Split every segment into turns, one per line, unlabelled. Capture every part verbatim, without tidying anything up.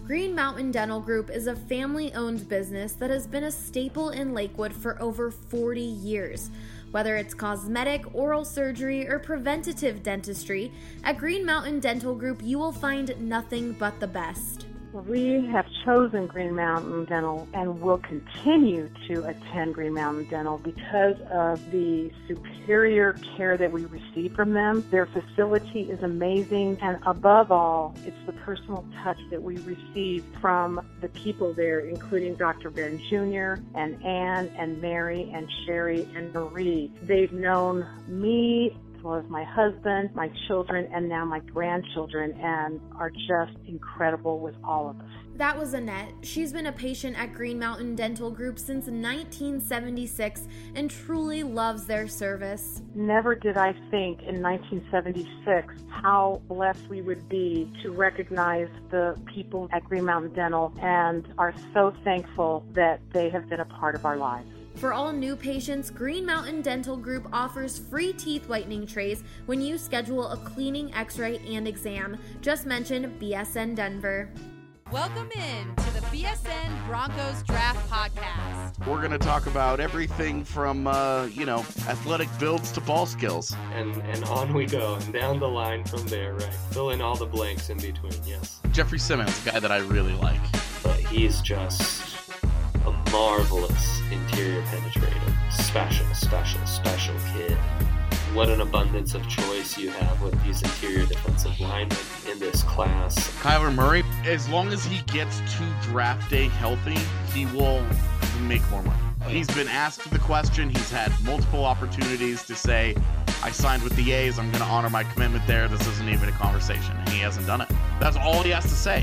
Green Mountain Dental Group is a family-owned business that has been a staple in Lakewood for over forty years. Whether it's cosmetic, oral surgery, or preventative dentistry, at Green Mountain Dental Group you will find nothing but the best.
We have chosen Green Mountain Dental and will continue to attend Green Mountain Dental because of the superior care that we receive from them. Their facility is amazing, and above all, it's the personal touch that we receive from the people there, including Doctor Ben Junior and Ann and Mary and Sherry and Marie. They've known me as well as my husband, my children, and now my grandchildren, and are just incredible with all of us.
That was Annette. She's been a patient at Green Mountain Dental Group since nineteen seventy-six and truly loves their service.
Never did I think in nineteen seventy-six how blessed we would be to recognize the people at Green Mountain Dental, and are so thankful that they have been a part of our lives.
For all new patients, Green Mountain Dental Group offers free teeth whitening trays when you schedule a cleaning, x-ray, and exam. Just mention B S N Denver.
Welcome in to the B S N Broncos Draft Podcast.
We're going to talk about everything from, uh, you know, athletic builds to ball skills.
And and on we go, and down the line from there, right? Fill in all the blanks in between, yes.
Jeffrey Simmons, a guy that I really like.
But he's just a marvelous interior penetrator. Special, special, special kid. What an abundance of choice you have with these interior defensive linemen in this class.
Kyler Murray, as long as he gets to draft day healthy, he will make more money. He's been asked the question. He's had multiple opportunities to say, I signed with the A's. I'm going to honor my commitment there. This isn't even a conversation. And he hasn't done it. That's all he has to say.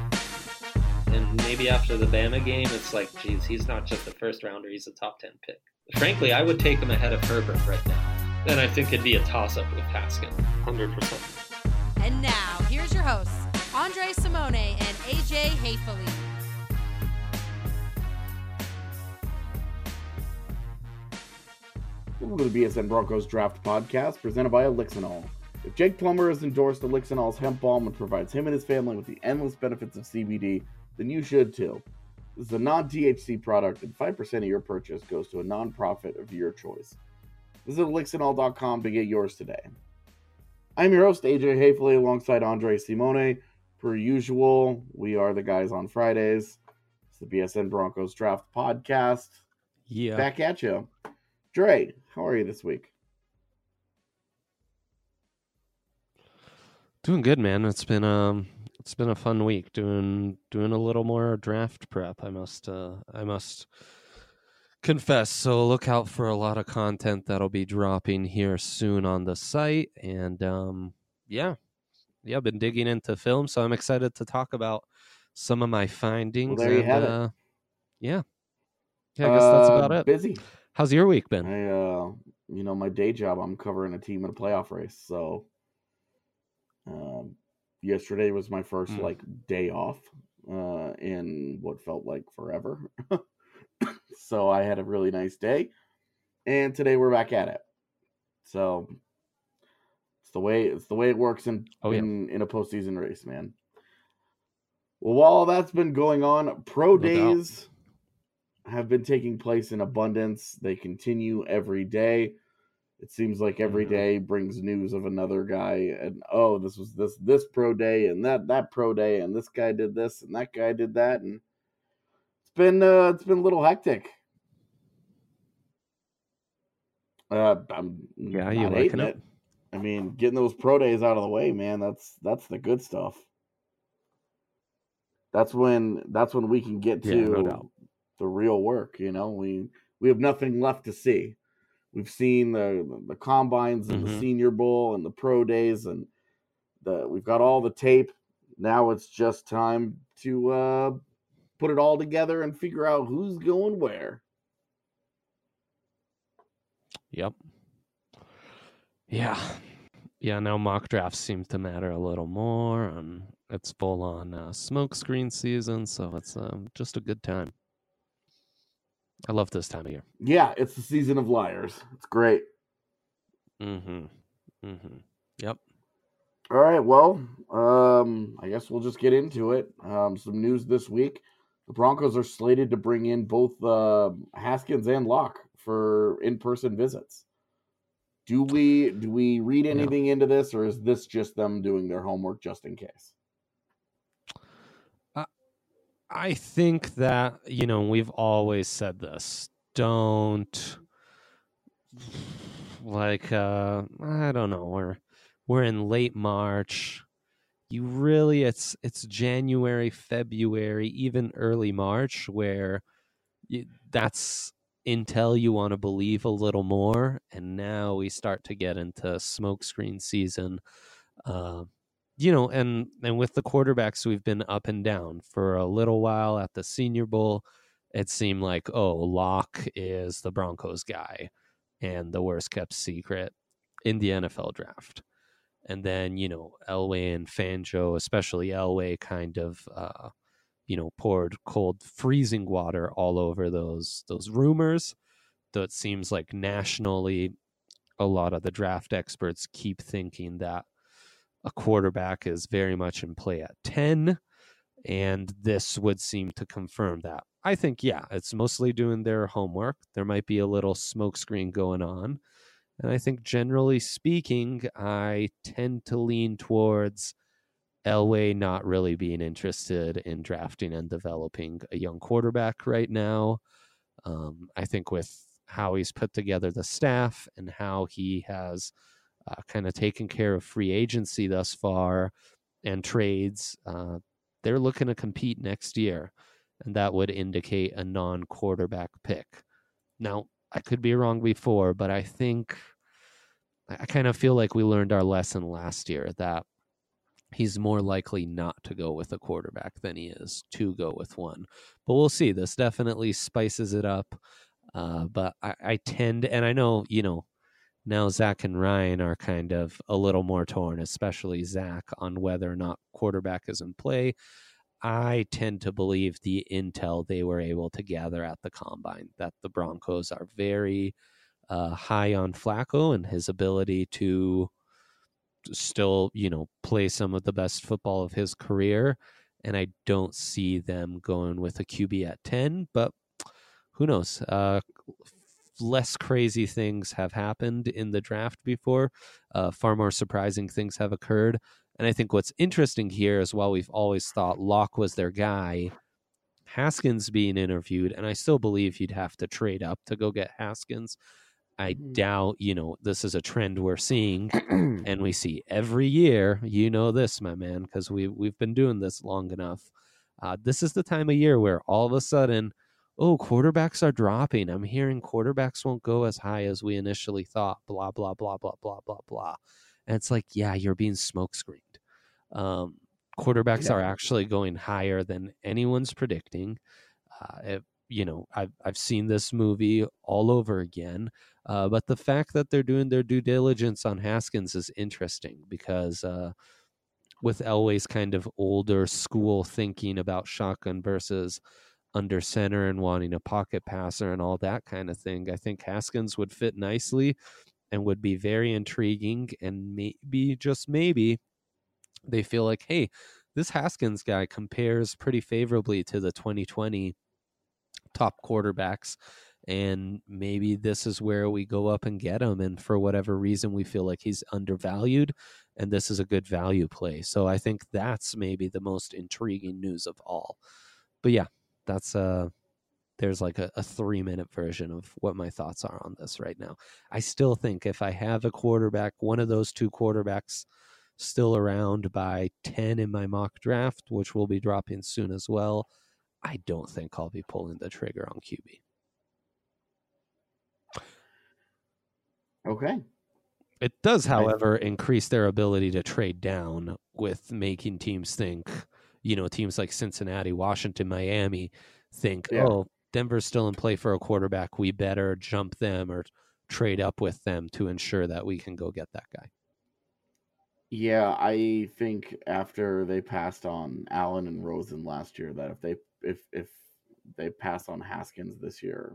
And maybe after the Bama game, it's like, geez, he's not just a first rounder, he's a top ten pick. Frankly, I would take him ahead of Herbert right now. And I think it'd be a toss-up with Haskins.
one hundred percent.
And now, here's your hosts, Andre Simone and A J Hayfley.
Welcome to the B S N Broncos Draft Podcast, presented by Elixinol. If Jake Plummer has endorsed Elixinol's hemp balm and provides him and his family with the endless benefits of C B D, then you should too. This is a non-T H C product, and five percent of your purchase goes to a nonprofit of your choice. Visit Elixinol dot com to get yours today. I'm your host, A J Hayfley, alongside Andre Simone. Per usual, we are the guys on Fridays. It's the B S N Broncos Draft Podcast.
Yeah.
Back at you. Dre, how are you this week?
Doing good, man. It's been um it's been a fun week doing doing a little more draft prep. I must uh I must confess. So look out for a lot of content that'll be dropping here soon on the site. And um yeah. Yeah, I've been digging into film, so I'm excited to talk about some of my findings.
Well, there you
and,
have
uh,
it.
Yeah. Yeah, I guess that's
Uh,
about it.
Busy.
How's your week been?
I, uh, you know, my day job, I'm covering a team in a playoff race. So, um, yesterday was my first
Mm.
like day off, uh, in what felt like forever. So I had a really nice day, and today we're back at it. So it's the way it's the way it works in
Oh, yeah.
in, in a postseason race, man. Well, while that's been going on, pro
No doubt.
days have been taking place in abundance. They continue every day. It seems like every
Mhm.
day brings news of another guy, and oh, this was this this pro day, and that that pro day, and this guy did this, and that guy did that, and it's been uh, it's been a little hectic. Uh, I'm
Yeah, you
not
liking
hating
it?
it. I mean, getting those pro days out of the way, man. That's that's the good stuff. That's when that's when we can get to
Yeah, no doubt.
the real work. You know, we we have nothing left to see. We've seen the the combines and the
Mhm.
Senior Bowl and the pro days, and the we've got all the tape. Now it's just time to uh, put it all together and figure out who's going where.
Yep. Yeah. Yeah, now mock drafts seem to matter a little more, and it's full on uh, smoke screen season, so it's um, just a good time. I love this time of year.
Yeah, it's the season of liars. It's great.
Mm-hmm. Mm-hmm. Yep.
All right, well, um, I guess we'll just get into it. Um, some news this week. The Broncos are slated to bring in both uh, Haskins and Locke for in-person visits. Do we do we read anything yeah. into this, or is this just them doing their homework just in case?
Uh, I think that, you know, we've always said this. Don't, like, uh, I don't know, we're, we're in late March. You really, it's it's January, February, even early March, where you, that's intel you want to believe a little more, and now we start to get into smokescreen season. Uh, you know, and and with the quarterbacks, we've been up and down for a little while. At the Senior Bowl, it seemed like, oh, Locke is the Broncos guy and the worst kept secret in the N F L draft. And then, you know, Elway and Fangio, especially Elway, kind of, uh, you know, poured cold, freezing water all over those those rumors. Though it seems like nationally, a lot of the draft experts keep thinking that a quarterback is very much in play at ten, and this would seem to confirm that. I think, yeah, it's mostly doing their homework. There might be a little smokescreen going on. And I think, generally speaking, I tend to lean towards Elway not really being interested in drafting and developing a young quarterback right now. Um, I think with how he's put together the staff and how he has uh, kind of taken care of free agency thus far and trades, uh, they're looking to compete next year. And that would indicate a non-quarterback pick. Now, I could be wrong before, but I think I kind of feel like we learned our lesson last year that he's more likely not to go with a quarterback than he is to go with one. But we'll see. This definitely spices it up. Uh, but I, I tend, and I know, you know, now Zach and Ryan are kind of a little more torn, especially Zach, on whether or not quarterback is in play. I tend to believe the intel they were able to gather at the combine, that the Broncos are very uh, high on Flacco and his ability to still, you know, play some of the best football of his career. And I don't see them going with a Q B at ten, but who knows? Uh, less crazy things have happened in the draft before. Uh, far more surprising things have occurred. And I think what's interesting here is, while we've always thought Locke was their guy, Haskins being interviewed, and I still believe you'd have to trade up to go get Haskins. I mm-hmm. doubt, you know, this is a trend we're seeing, and we see every year. You know this, my man, because we, we've been doing this long enough. Uh, this is the time of year where all of a sudden, oh, quarterbacks are dropping. I'm hearing quarterbacks won't go as high as we initially thought, blah, blah, blah, blah, blah, blah, blah. And it's like, yeah, you're being smokescreened. Um, quarterbacks yeah. are actually going higher than anyone's predicting. Uh, it, you know, I've, I've seen this movie all over again. Uh, but the fact that they're doing their due diligence on Haskins is interesting, because uh, with Elway's kind of older school thinking about shotgun versus under center and wanting a pocket passer and all that kind of thing, I think Haskins would fit nicely and would be very intriguing. And maybe, just maybe, they feel like, hey, this Haskins guy compares pretty favorably to the twenty twenty top quarterbacks, and maybe this is where we go up and get him. And for whatever reason, we feel like he's undervalued, and this is a good value play. So I think that's maybe the most intriguing news of all. But yeah, that's uh there's like a, a three minute version of what my thoughts are on this right now. I still think if I have a quarterback, one of those two quarterbacks still around by ten in my mock draft, which will be dropping soon as well, I don't think I'll be pulling the trigger on Q B.
Okay.
It does, however, increase their ability to trade down, with making teams think, you know, teams like Cincinnati, Washington, Miami think, yeah. oh, Denver's still in play for a quarterback. We better jump them or trade up with them to ensure that we can go get that guy.
Yeah, I think after they passed on Allen and Rosen last year, that if they if if they pass on Haskins this year,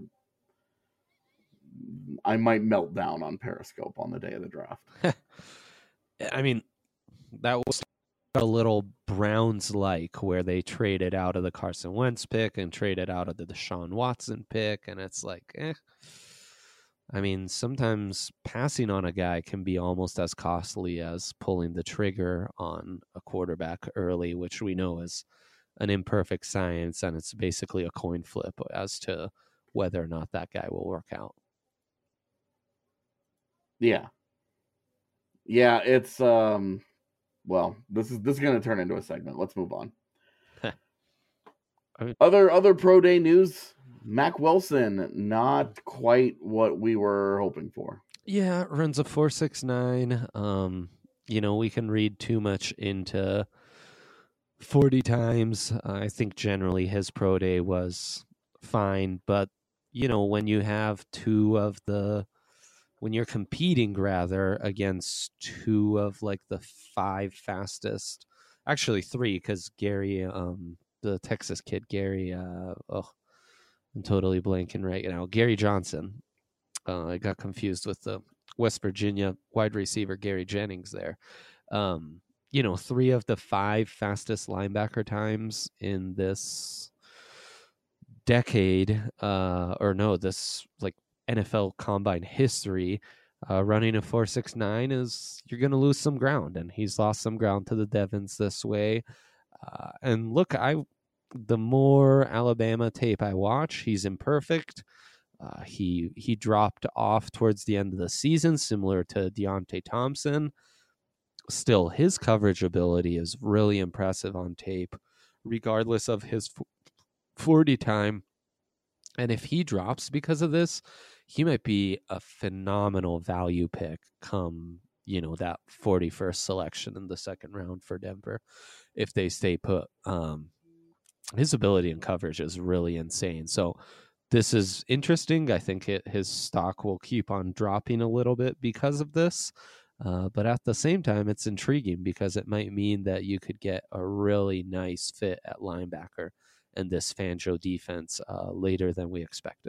I might melt down on Periscope on the day of the draft.
I mean, that was a little Browns-like, where they traded out of the Carson Wentz pick and traded out of the Deshaun Watson pick, and it's like, eh. I mean, sometimes passing on a guy can be almost as costly as pulling the trigger on a quarterback early, which we know is an imperfect science, and it's basically a coin flip as to whether or not that guy will work out.
Yeah. Yeah, it's um well, this is this is going to turn into a segment. Let's move on.
I mean,
other other pro day news, Mac Wilson, not quite what we were hoping for.
Yeah, runs a four six nine. Um, you know, we can read too much into forty times. I think generally his pro day was fine, but you know, when you have two of the when you're competing rather against two of like the five fastest, actually three, because Gary, um, the Texas kid, Gary, uh, oh, I'm totally blanking right now. Gary Johnson. Uh, I got confused with the West Virginia wide receiver, Gary Jennings there. Um, you know, three of the five fastest linebacker times in this decade, uh, or no, this like N F L combine history, uh, running a four six nine is, you're going to lose some ground, and he's lost some ground to the Devons this way. Uh, and look, I the more Alabama tape I watch, he's imperfect. Uh, he he dropped off towards the end of the season, similar to Deontay Thompson. Still, his coverage ability is really impressive on tape, regardless of his forty time. And if he drops because of this, he might be a phenomenal value pick come, you know, that forty-first selection in the second round for Denver, if they stay put. Um, his ability in coverage is really insane. So this is interesting. I think it, his stock will keep on dropping a little bit because of this. Uh, but at the same time, it's intriguing because it might mean that you could get a really nice fit at linebacker in this Fangio defense uh, later than we expected.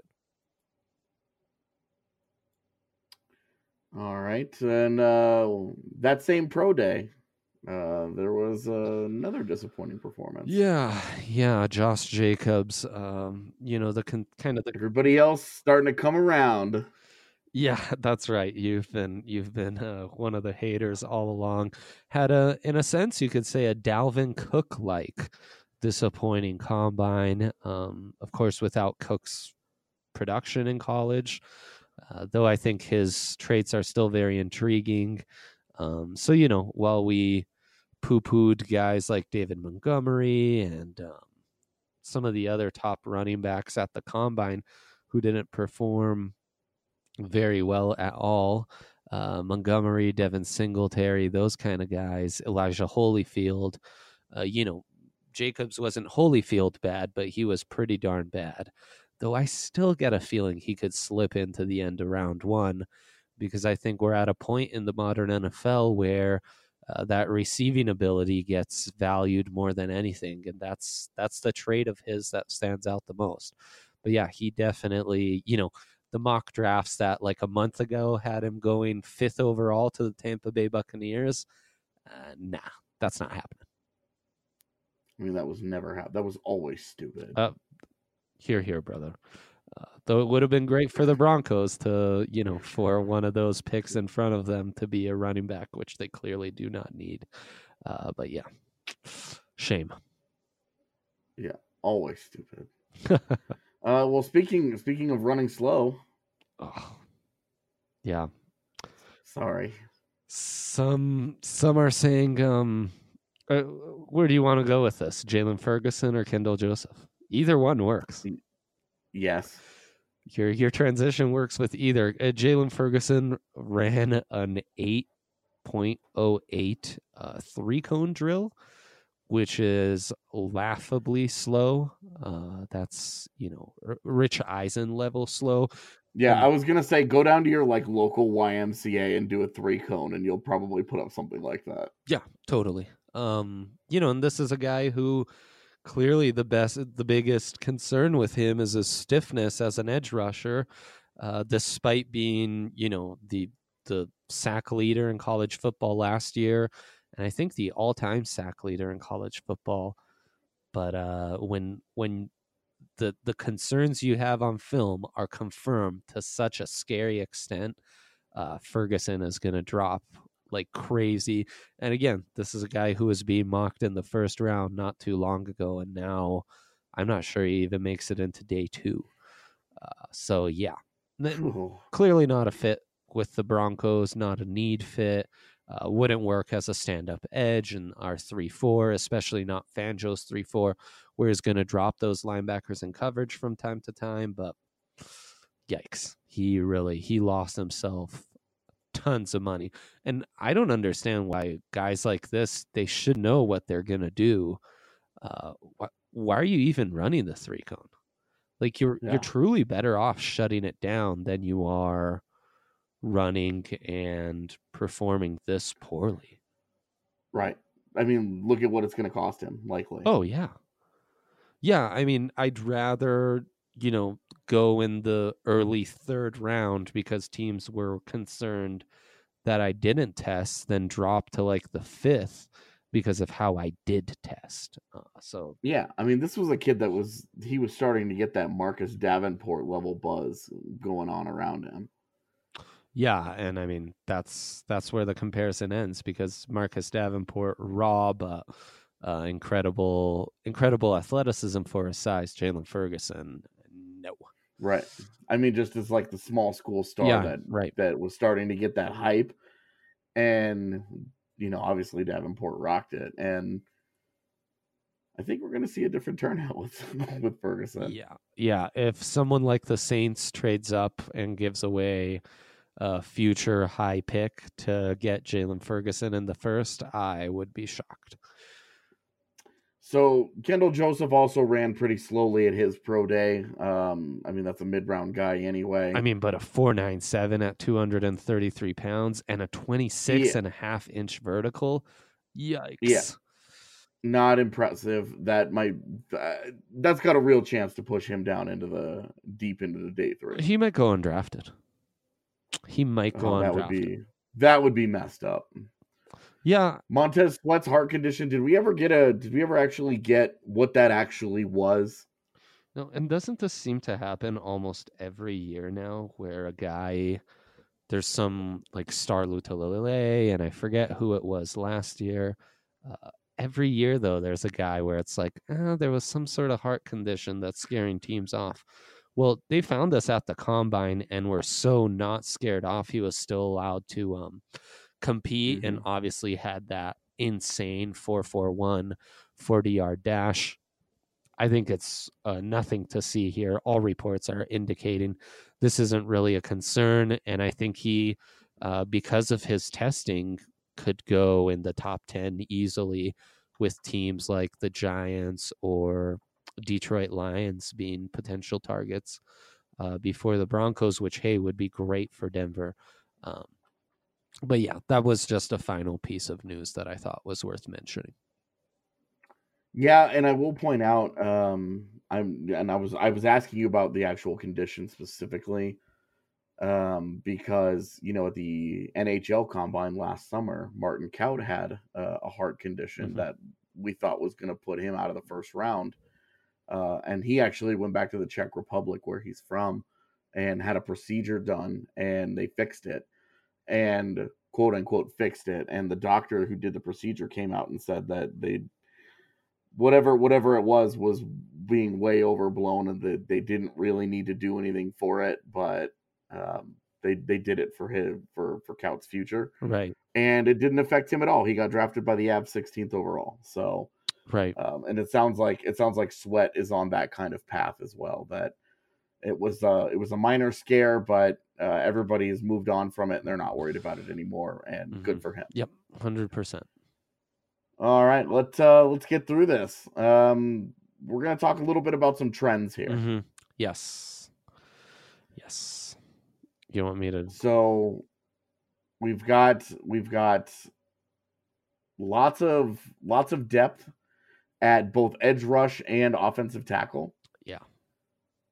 All right. And uh, that same pro day, uh, there was uh, another disappointing performance.
Yeah, yeah, Josh Jacobs. Um, you know, the con- kind of the
everybody else starting to come around.
Yeah, that's right. You've been you've been uh, one of the haters all along. Had a, in a sense, you could say a Dalvin Cook like disappointing combine. Um, of course, without Cook's production in college, uh, though I think his traits are still very intriguing. Um, so you know, while we poo-pooed guys like David Montgomery and um, some of the other top running backs at the combine who didn't perform very well at all, uh, Montgomery, Devin Singletary, those kind of guys, Elijah Holyfield, uh, you know, Jacobs wasn't Holyfield bad, but he was pretty darn bad. Though I still get a feeling he could slip into the end of round one, because I think we're at a point in the modern N F L where Uh, that receiving ability gets valued more than anything, and that's that's the trait of his that stands out the most. But yeah, he definitely, you know, the mock drafts that like a month ago had him going fifth overall to the Tampa Bay Buccaneers. Uh, nah, that's not happening.
I mean, that was never happened. That was always stupid.
Uh, here, here, brother. Uh, though it would have been great for the Broncos to, you know, for one of those picks in front of them to be a running back, which they clearly do not need. Uh, but yeah, shame.
Yeah, always stupid. uh, well, speaking speaking of running slow.
Oh, yeah.
Sorry.
Some some are saying, um, uh, where do you want to go with this? Jalen Ferguson or Kendall Joseph? Either one works.
Yes.
Your your transition works with either. Uh, Jalen Ferguson ran an eight point oh eight uh, three cone drill, which is laughably slow. Uh, that's, you know, R- Rich Eisen level slow.
Yeah,
and,
I was gonna say go down to your like local Y M C A and do a three cone, and you'll probably put up something like that.
Yeah, totally. Um, you know, and this is a guy who. Clearly, the best, the biggest concern with him is his stiffness as an edge rusher, uh, despite being, you know, the the sack leader in college football last year and I think the all-time sack leader in college football. But uh, when when the the concerns you have on film are confirmed to such a scary extent, uh, Ferguson is going to drop like crazy. And again, this is a guy who was being mocked in the first round not too long ago, and now I'm not sure he even makes it into day two. Uh, so yeah,
Ooh.
clearly not a fit with the Broncos, not a need fit. Uh, wouldn't work as a stand-up edge in our three four, especially not Fangio's three four, where he's going to drop those linebackers in coverage from time to time. But yikes, he really, he lost himself tons of money. And I don't understand why guys like this, they should know what they're going to do. Uh, wh- why are you even running the three cone? Like you're
Yeah.
you're truly better off shutting it down than you are running and performing this poorly.
Right. I mean, look at what it's going to cost him, likely.
Oh, yeah. Yeah, I mean, I'd rather, you know, go in the early third round because teams were concerned that I didn't test than drop to like the fifth because of how I did test. Uh, so
Yeah, I mean, this was a kid that was, he was starting to get that Marcus Davenport level buzz going on around him.
yeah, and I mean that's that's where the comparison ends because Marcus Davenport, raw but uh, incredible, incredible athleticism for his size. Jalen Ferguson, no.
Right. I mean, just as like the small school star
Yeah,
that
right.
that was starting to get that hype, and you know, obviously Davenport rocked it, and I think we're going to see a different turnout with with Ferguson.
Yeah, yeah. If someone like the Saints trades up and gives away a future high pick to get Jalen Ferguson in the first, I would be shocked.
So Kendall Joseph also ran pretty slowly at his pro day. Um, I mean, that's a mid-round guy anyway.
I mean, but a four nine seven at two hundred thirty-three pounds and a twenty-six
Yeah.
and a half inch vertical. Yikes.
Yeah. Not impressive. That might uh, that's got a real chance to push him down into the deep into the day three.
He might go undrafted. He might go
Oh, that
undrafted.
would be that would be messed up.
Yeah,
Montez Sweat's heart condition. Did we ever get a? Did we ever actually get what that actually was?
no, and doesn't this seem to happen almost every year now, where a guy, there's some like Star Lutalele, and I forget who it was last year. Uh, every year though, there's a guy where it's like, oh, there was some sort of heart condition that's scaring teams off. Well, they found us at the combine and were so not scared off. He was still allowed to um, compete
Mm-hmm.
and obviously had that insane four four one forty-yard dash. I think it's uh, nothing to see here. All reports are indicating this isn't really a concern. And I think he, uh, because of his testing, could go in the top ten easily with teams like the Giants or Detroit Lions being potential targets uh, before the Broncos, which, hey, would be great for Denver. Um, but yeah, that was just a final piece of news that I thought was worth mentioning.
Yeah, and I will point out, um, I'm and I was I was asking you about the actual condition specifically, um, because you know at the N H L Combine last summer, Martin Kaut had uh, a heart condition
Mhm.
that we thought was going to put him out of the first round, uh, and he actually went back to the Czech Republic where he's from, and had a procedure done, and they fixed it, and quote unquote fixed it, and the doctor who did the procedure came out and said that they whatever whatever it was was being way overblown and that they didn't really need to do anything for it, but um, they they did it for him for for Kaut's future,
Right,
and it didn't affect him at all. He got drafted by the Avs sixteenth overall. So
right.
um, and it sounds like it sounds like Sweat is on that kind of path as well. That it was uh it was a minor scare, but uh, everybody has moved on from it and they're not worried about it anymore. And
Mhm.
good for him.
Yep, one hundred percent.
All right, let's uh let's get through this. Um, we're gonna talk a little bit about some trends here.
Mm-hmm. Yes. Yes. You want me to?
So we've got we've got lots of lots of depth at both edge rush and offensive tackle.
Yeah.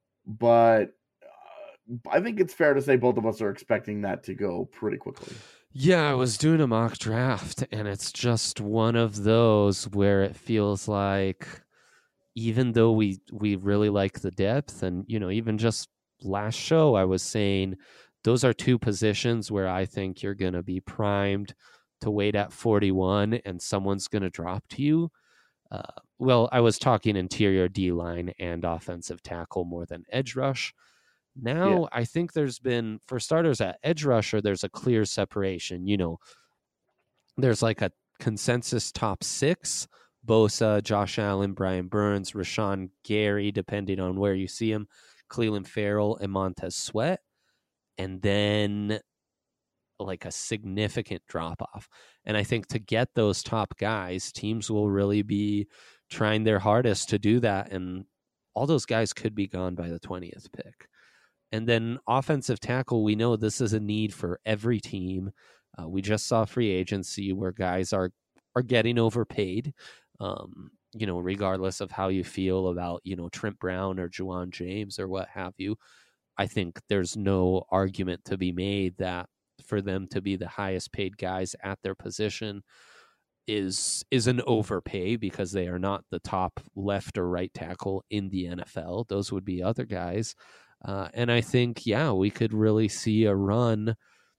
But uh, I think it's fair to say both of us are expecting that to go pretty quickly.
Yeah, I was doing a mock draft, and it's just one of those where it feels like even though we we really like the depth, and you know, even just last show I was saying those are two positions where I think you're going to be primed to wait at forty-one and someone's going to drop to you. Uh, well, I was talking interior D-line and offensive tackle more than edge rush. Now, yeah. I think there's been, for starters, at edge rusher, there's a clear separation. You know, there's like a consensus top six: Bosa, Josh Allen, Brian Burns, Rashawn Gary, depending on where you see him, Cleveland Farrell, and Montez Sweat. And then like a significant drop off. And I think to get those top guys, teams will really be trying their hardest to do that. And all those guys could be gone by the twentieth pick. And then offensive tackle, we know this is a need for every team. Uh, we just saw free agency where guys are, are getting overpaid, um, you know, regardless of how you feel about, you know, Trent Brown or Juwan James or what have you. I think there's no argument to be made that for them to be the highest paid guys at their position is is an overpay, because they are not the top left or right tackle in the N F L. Those would be other guys. Uh, and I think, yeah, we could really see a run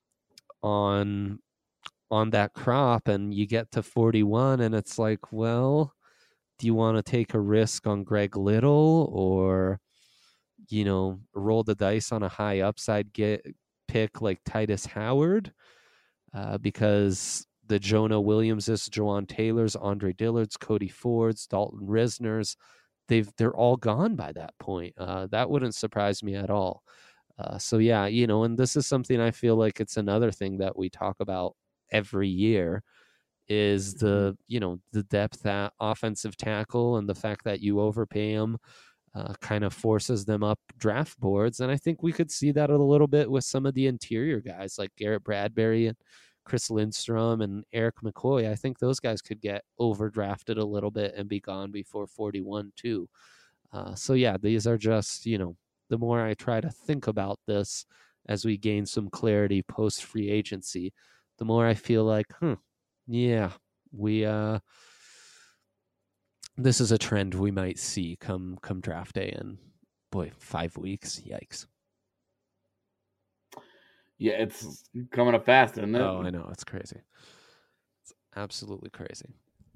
on on that crop, and you get to forty-one and it's like, well, do you want to take a risk on Greg Little, or, you know, roll the dice on a high upside get pick like Titus Howard, uh, because the Jonah Williamses, Jawan Taylors, Andre Dillards, Cody Fords, Dalton Risners, they've they're all gone by that point. Uh, that wouldn't surprise me at all. Uh, so yeah, you know, and this is something I feel like it's another thing that we talk about every year is the, you know, the depth at offensive tackle, and the fact that you overpay them uh, kind of forces them up draft boards. And I think we could see that a little bit with some of the interior guys like Garrett Bradbury and Chris Lindstrom and Eric McCoy. I think those guys could get overdrafted a little bit and be gone before forty-one too. Uh, so yeah, these are just, you know, the more I try to think about this as we gain some clarity post free agency, the more I feel like, hmm, yeah, we, uh, this is a trend we might see come, come draft day in, boy, five weeks. Yikes.
Yeah, it's coming up fast, isn't it?
Oh, I know. It's crazy. It's absolutely crazy.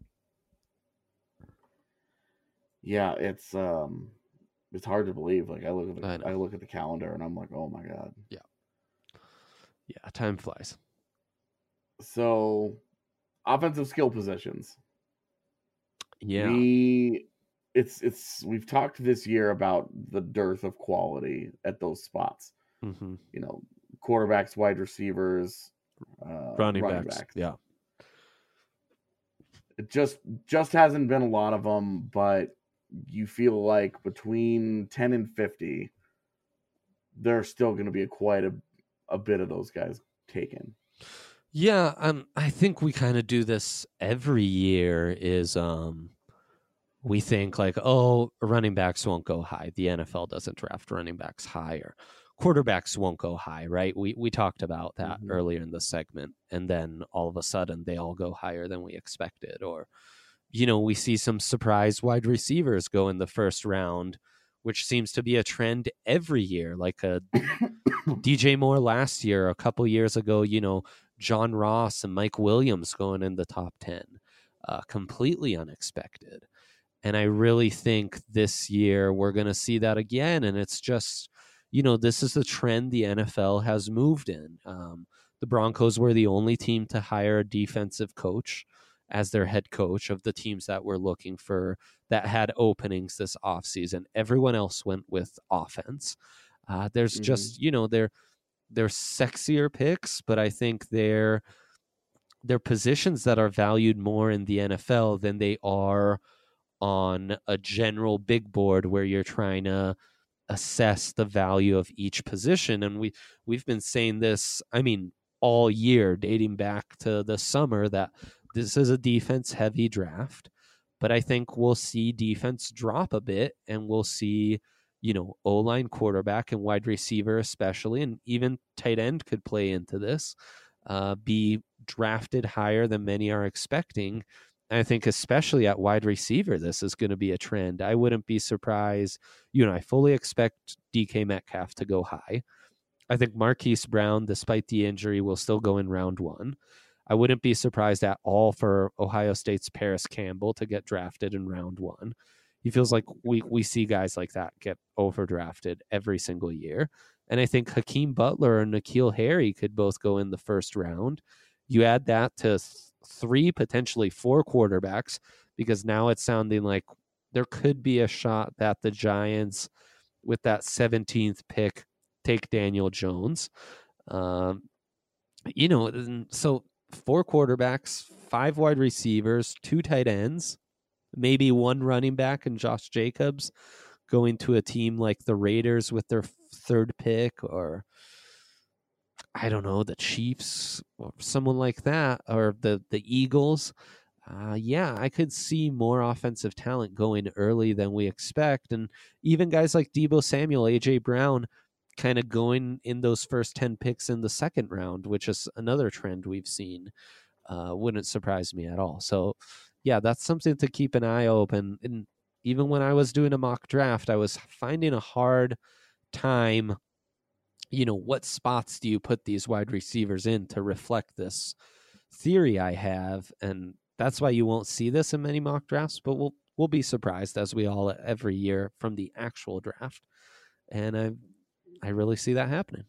Yeah, it's um, it's hard to believe. Like I look at the,
I
I, look at the calendar and I'm like, oh my god.
Yeah. Yeah, time flies.
So, offensive skill positions.
Yeah.
We, it's it's we've talked this year about the dearth of quality at those spots.
Mm-hmm.
You know, quarterbacks, wide receivers, uh,
running,
running
backs.
backs.
Yeah.
It just just hasn't been a lot of them, but you feel like between ten and fifty, there's still going to be a quite a, a bit of those guys taken.
Yeah, um, I think we kind of do this every year is um, we think like, oh, running backs won't go high. The N F L doesn't draft running backs high, or quarterbacks won't go high, right? We we talked about that mm-hmm. earlier in the segment, and then all of a sudden they all go higher than we expected. Or, you know, we see some surprise wide receivers go in the first round, which seems to be a trend every year. Like a D J Moore last year, a couple years ago, you know, John Ross and Mike Williams going in the top ten, uh, completely unexpected. And I really think this year we're going to see that again. And it's just, you know, this is the trend the N F L has moved in. Um, the Broncos were the only team to hire a defensive coach as their head coach of the teams that were looking for, that had openings this offseason. Everyone else went with offense. Uh, there's mm-hmm. just, you know, they're, they're sexier picks, but I think they're, they're positions that are valued more in the N F L than they are on a general big board where you're trying to assess the value of each position. And we, we've been saying this, I mean, all year, dating back to the summer, that this is a defense heavy draft, but I think we'll see defense drop a bit, and we'll see, you know, O-line, quarterback, and wide receiver especially, and even tight end could play into this. uh, be drafted higher than many are expecting. I think especially at wide receiver, this is going to be a trend. I wouldn't be surprised. You know, I fully expect D K Metcalf to go high. I think Marquise Brown, despite the injury, will still go in round one. I wouldn't be surprised at all for Ohio State's Paris Campbell to get drafted in round one. He feels like we, we see guys like that get overdrafted every single year. And I think Hakeem Butler and N'Keal Harry could both go in the first round. You add that to th- three, potentially four quarterbacks, because now it's sounding like there could be a shot that the Giants, with that seventeenth pick, take Daniel Jones. Um, you know, so four quarterbacks, five wide receivers, two tight ends, maybe one running back and Josh Jacobs going to a team like the Raiders with their third pick, or I don't know, the Chiefs or someone like that, or the, the Eagles. Uh, yeah, I could see more offensive talent going early than we expect. And even guys like Deebo Samuel, A J Brown, kind of going in those first ten picks in the second round, which is another trend we've seen. Uh, wouldn't surprise me at all. So, yeah, that's something to keep an eye open. And even when I was doing a mock draft, I was finding a hard time, you know, what spots do you put these wide receivers in to reflect this theory I have? And that's why you won't see this in many mock drafts, but we'll we'll be surprised, as we all every year, from the actual draft. And I I really see that happening.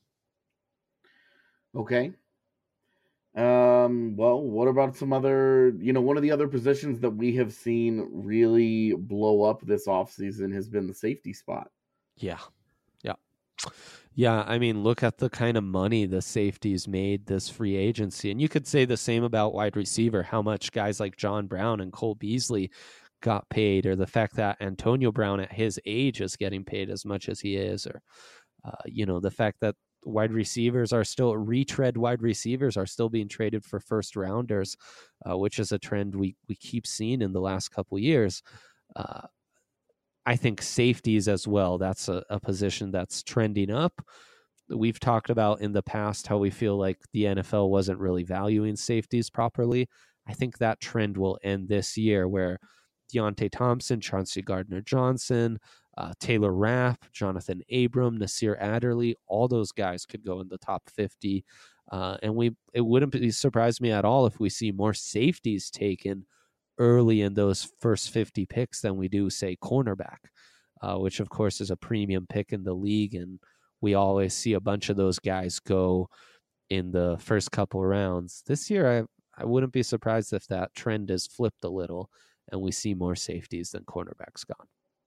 Okay. Um, well, what about some other, you know, one of the other positions that we have seen really blow up this offseason has been the safety spot.
Yeah. Yeah. Yeah, I mean, look at the kind of money the safeties made this free agency. And you could say the same about wide receiver, how much guys like John Brown and Cole Beasley got paid, or the fact that Antonio Brown at his age is getting paid as much as he is, or, uh, you know, the fact that wide receivers are still, retread wide receivers are still being traded for first rounders, uh, which is a trend we, we keep seeing in the last couple years. Uh, I think safeties as well, that's a, a position that's trending up. We've talked about in the past how we feel like the N F L wasn't really valuing safeties properly. I think that trend will end this year, where Deontay Thompson, Chauncey Gardner-Johnson, uh, Taylor Rapp, Jonathan Abram, Nasir Adderley, all those guys could go in the top fifty. Uh, and we it wouldn't be surprise me at all if we see more safeties taken early in those first fifty picks than we do, say, cornerback, uh, which of course is a premium pick in the league. And we always see a bunch of those guys go in the first couple rounds. This year, I, I wouldn't be surprised if that trend is flipped a little and we see more safeties than cornerbacks gone.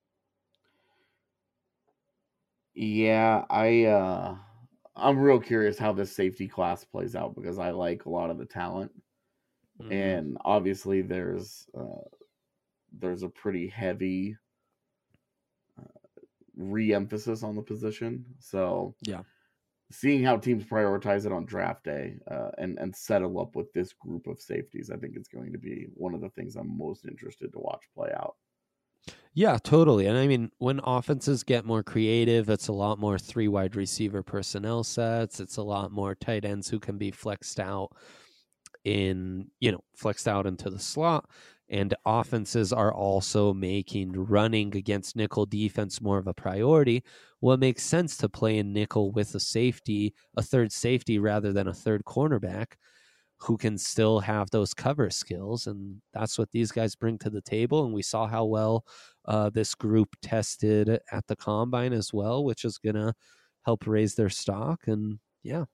Yeah, I, uh, I'm real curious how this safety class plays out, because I like a lot of the talent. Mm-hmm. And obviously there's uh, there's a pretty heavy uh, re-emphasis on the position. So
yeah,
seeing how teams prioritize it on draft day uh, and, and settle up with this group of safeties, I think it's going to be one of the things I'm most interested to watch play out.
Yeah, totally. And I mean, when offenses get more creative, it's a lot more three wide receiver personnel sets. It's a lot more tight ends who can be flexed out in, you know, flexed out into the slot. And offenses are also making running against nickel defense more of a priority. Well, it makes sense to play in nickel with a safety, a third safety, rather than a third cornerback who can still have those cover skills. And that's what these guys bring to the table. And we saw how well uh, this group tested at the combine as well, which is going to help raise their stock. And yeah.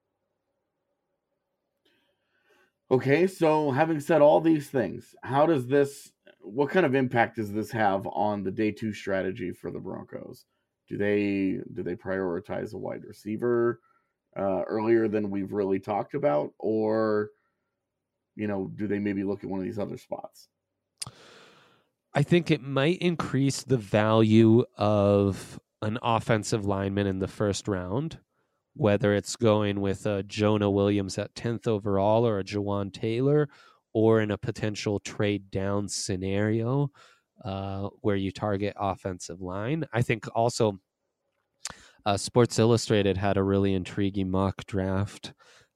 Okay, so having said all these things, how does this, what kind of impact does this have on the day two strategy for the Broncos? Do they do they prioritize a wide receiver uh, earlier than we've really talked about, or, you know, do they maybe look at one of these other spots?
I think it might increase the value of an offensive lineman in the first round, whether it's going with a Jonah Williams at tenth overall or a Jawan Taylor, or in a potential trade down scenario uh, where you target offensive line. I think also uh, Sports Illustrated had a really intriguing mock draft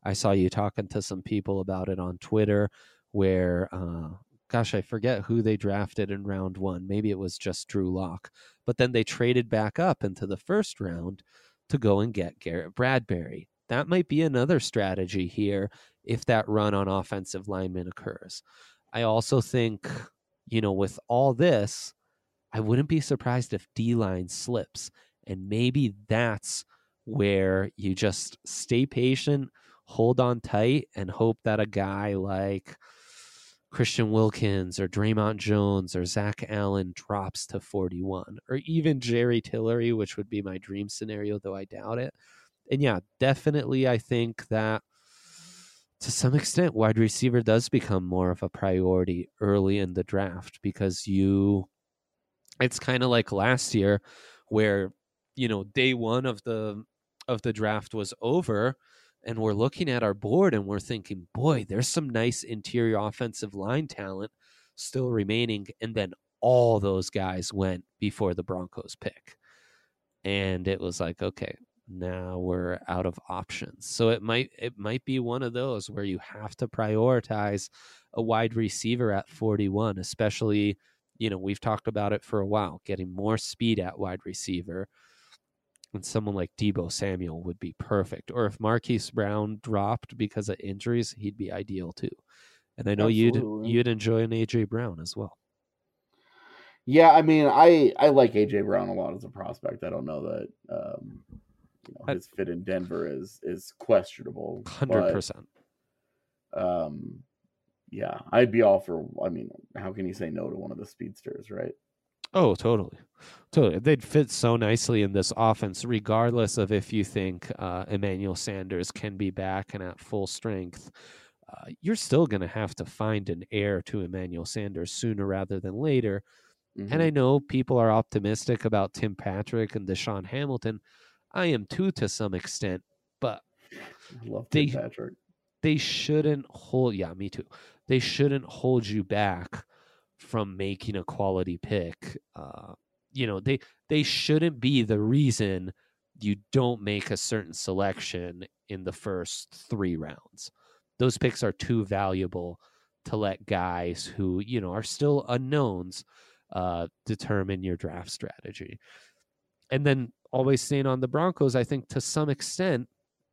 I saw you talking to some people about it on Twitter where, uh, gosh, I forget who they drafted in round one. Maybe it was just Drew Lock. But then they traded back up into the first round to go and get Garrett Bradbury. That might be another strategy here if that run on offensive linemen occurs. I also think, you know, with all this, I wouldn't be surprised if D-line slips. And maybe that's where you just stay patient, hold on tight, and hope that a guy like Christian Wilkins or Draymond Jones or Zach Allen drops to forty-one, or even Jerry Tillery, which would be my dream scenario, though I doubt it. And yeah, definitely I think that to some extent wide receiver does become more of a priority early in the draft, because you, it's kind of like last year where, you know, day one of the of the draft was over, and we're looking at our board and we're thinking, boy, there's some nice interior offensive line talent still remaining. And then all those guys went before the Broncos pick. And it was like, okay, now we're out of options. So it might it might be one of those where you have to prioritize a wide receiver at forty-one, especially, you know, we've talked about it for a while, getting more speed at wide receiver. And someone like Deebo Samuel would be perfect. Or if Marquise Brown dropped because of injuries, he'd be ideal too. And I know
Absolutely.
you'd you'd enjoy an A J Brown as well.
Yeah, I mean, I, I like A J Brown a lot as a prospect. I don't know that um, you know, his fit in Denver is is questionable.
one hundred percent.
But, um, yeah, I'd be all for, I mean, how can you say no to one of the speedsters, right?
Oh, totally. Totally. They'd fit so nicely in this offense, regardless of if you think uh, Emmanuel Sanders can be back and at full strength. Uh, you're still going to have to find an heir to Emmanuel Sanders sooner rather than later. Mm-hmm. And I know people are optimistic about Tim Patrick and Deshaun Hamilton. I am too, to some extent, but
I love
they,
Tim Patrick.
They shouldn't hold, yeah, me too. They shouldn't hold you back from making a quality pick. Uh, you know, they they shouldn't be the reason you don't make a certain selection in the first three rounds. Those picks are too valuable to let guys who, you know, are still unknowns uh, determine your draft strategy. And then always staying on the Broncos, I think to some extent,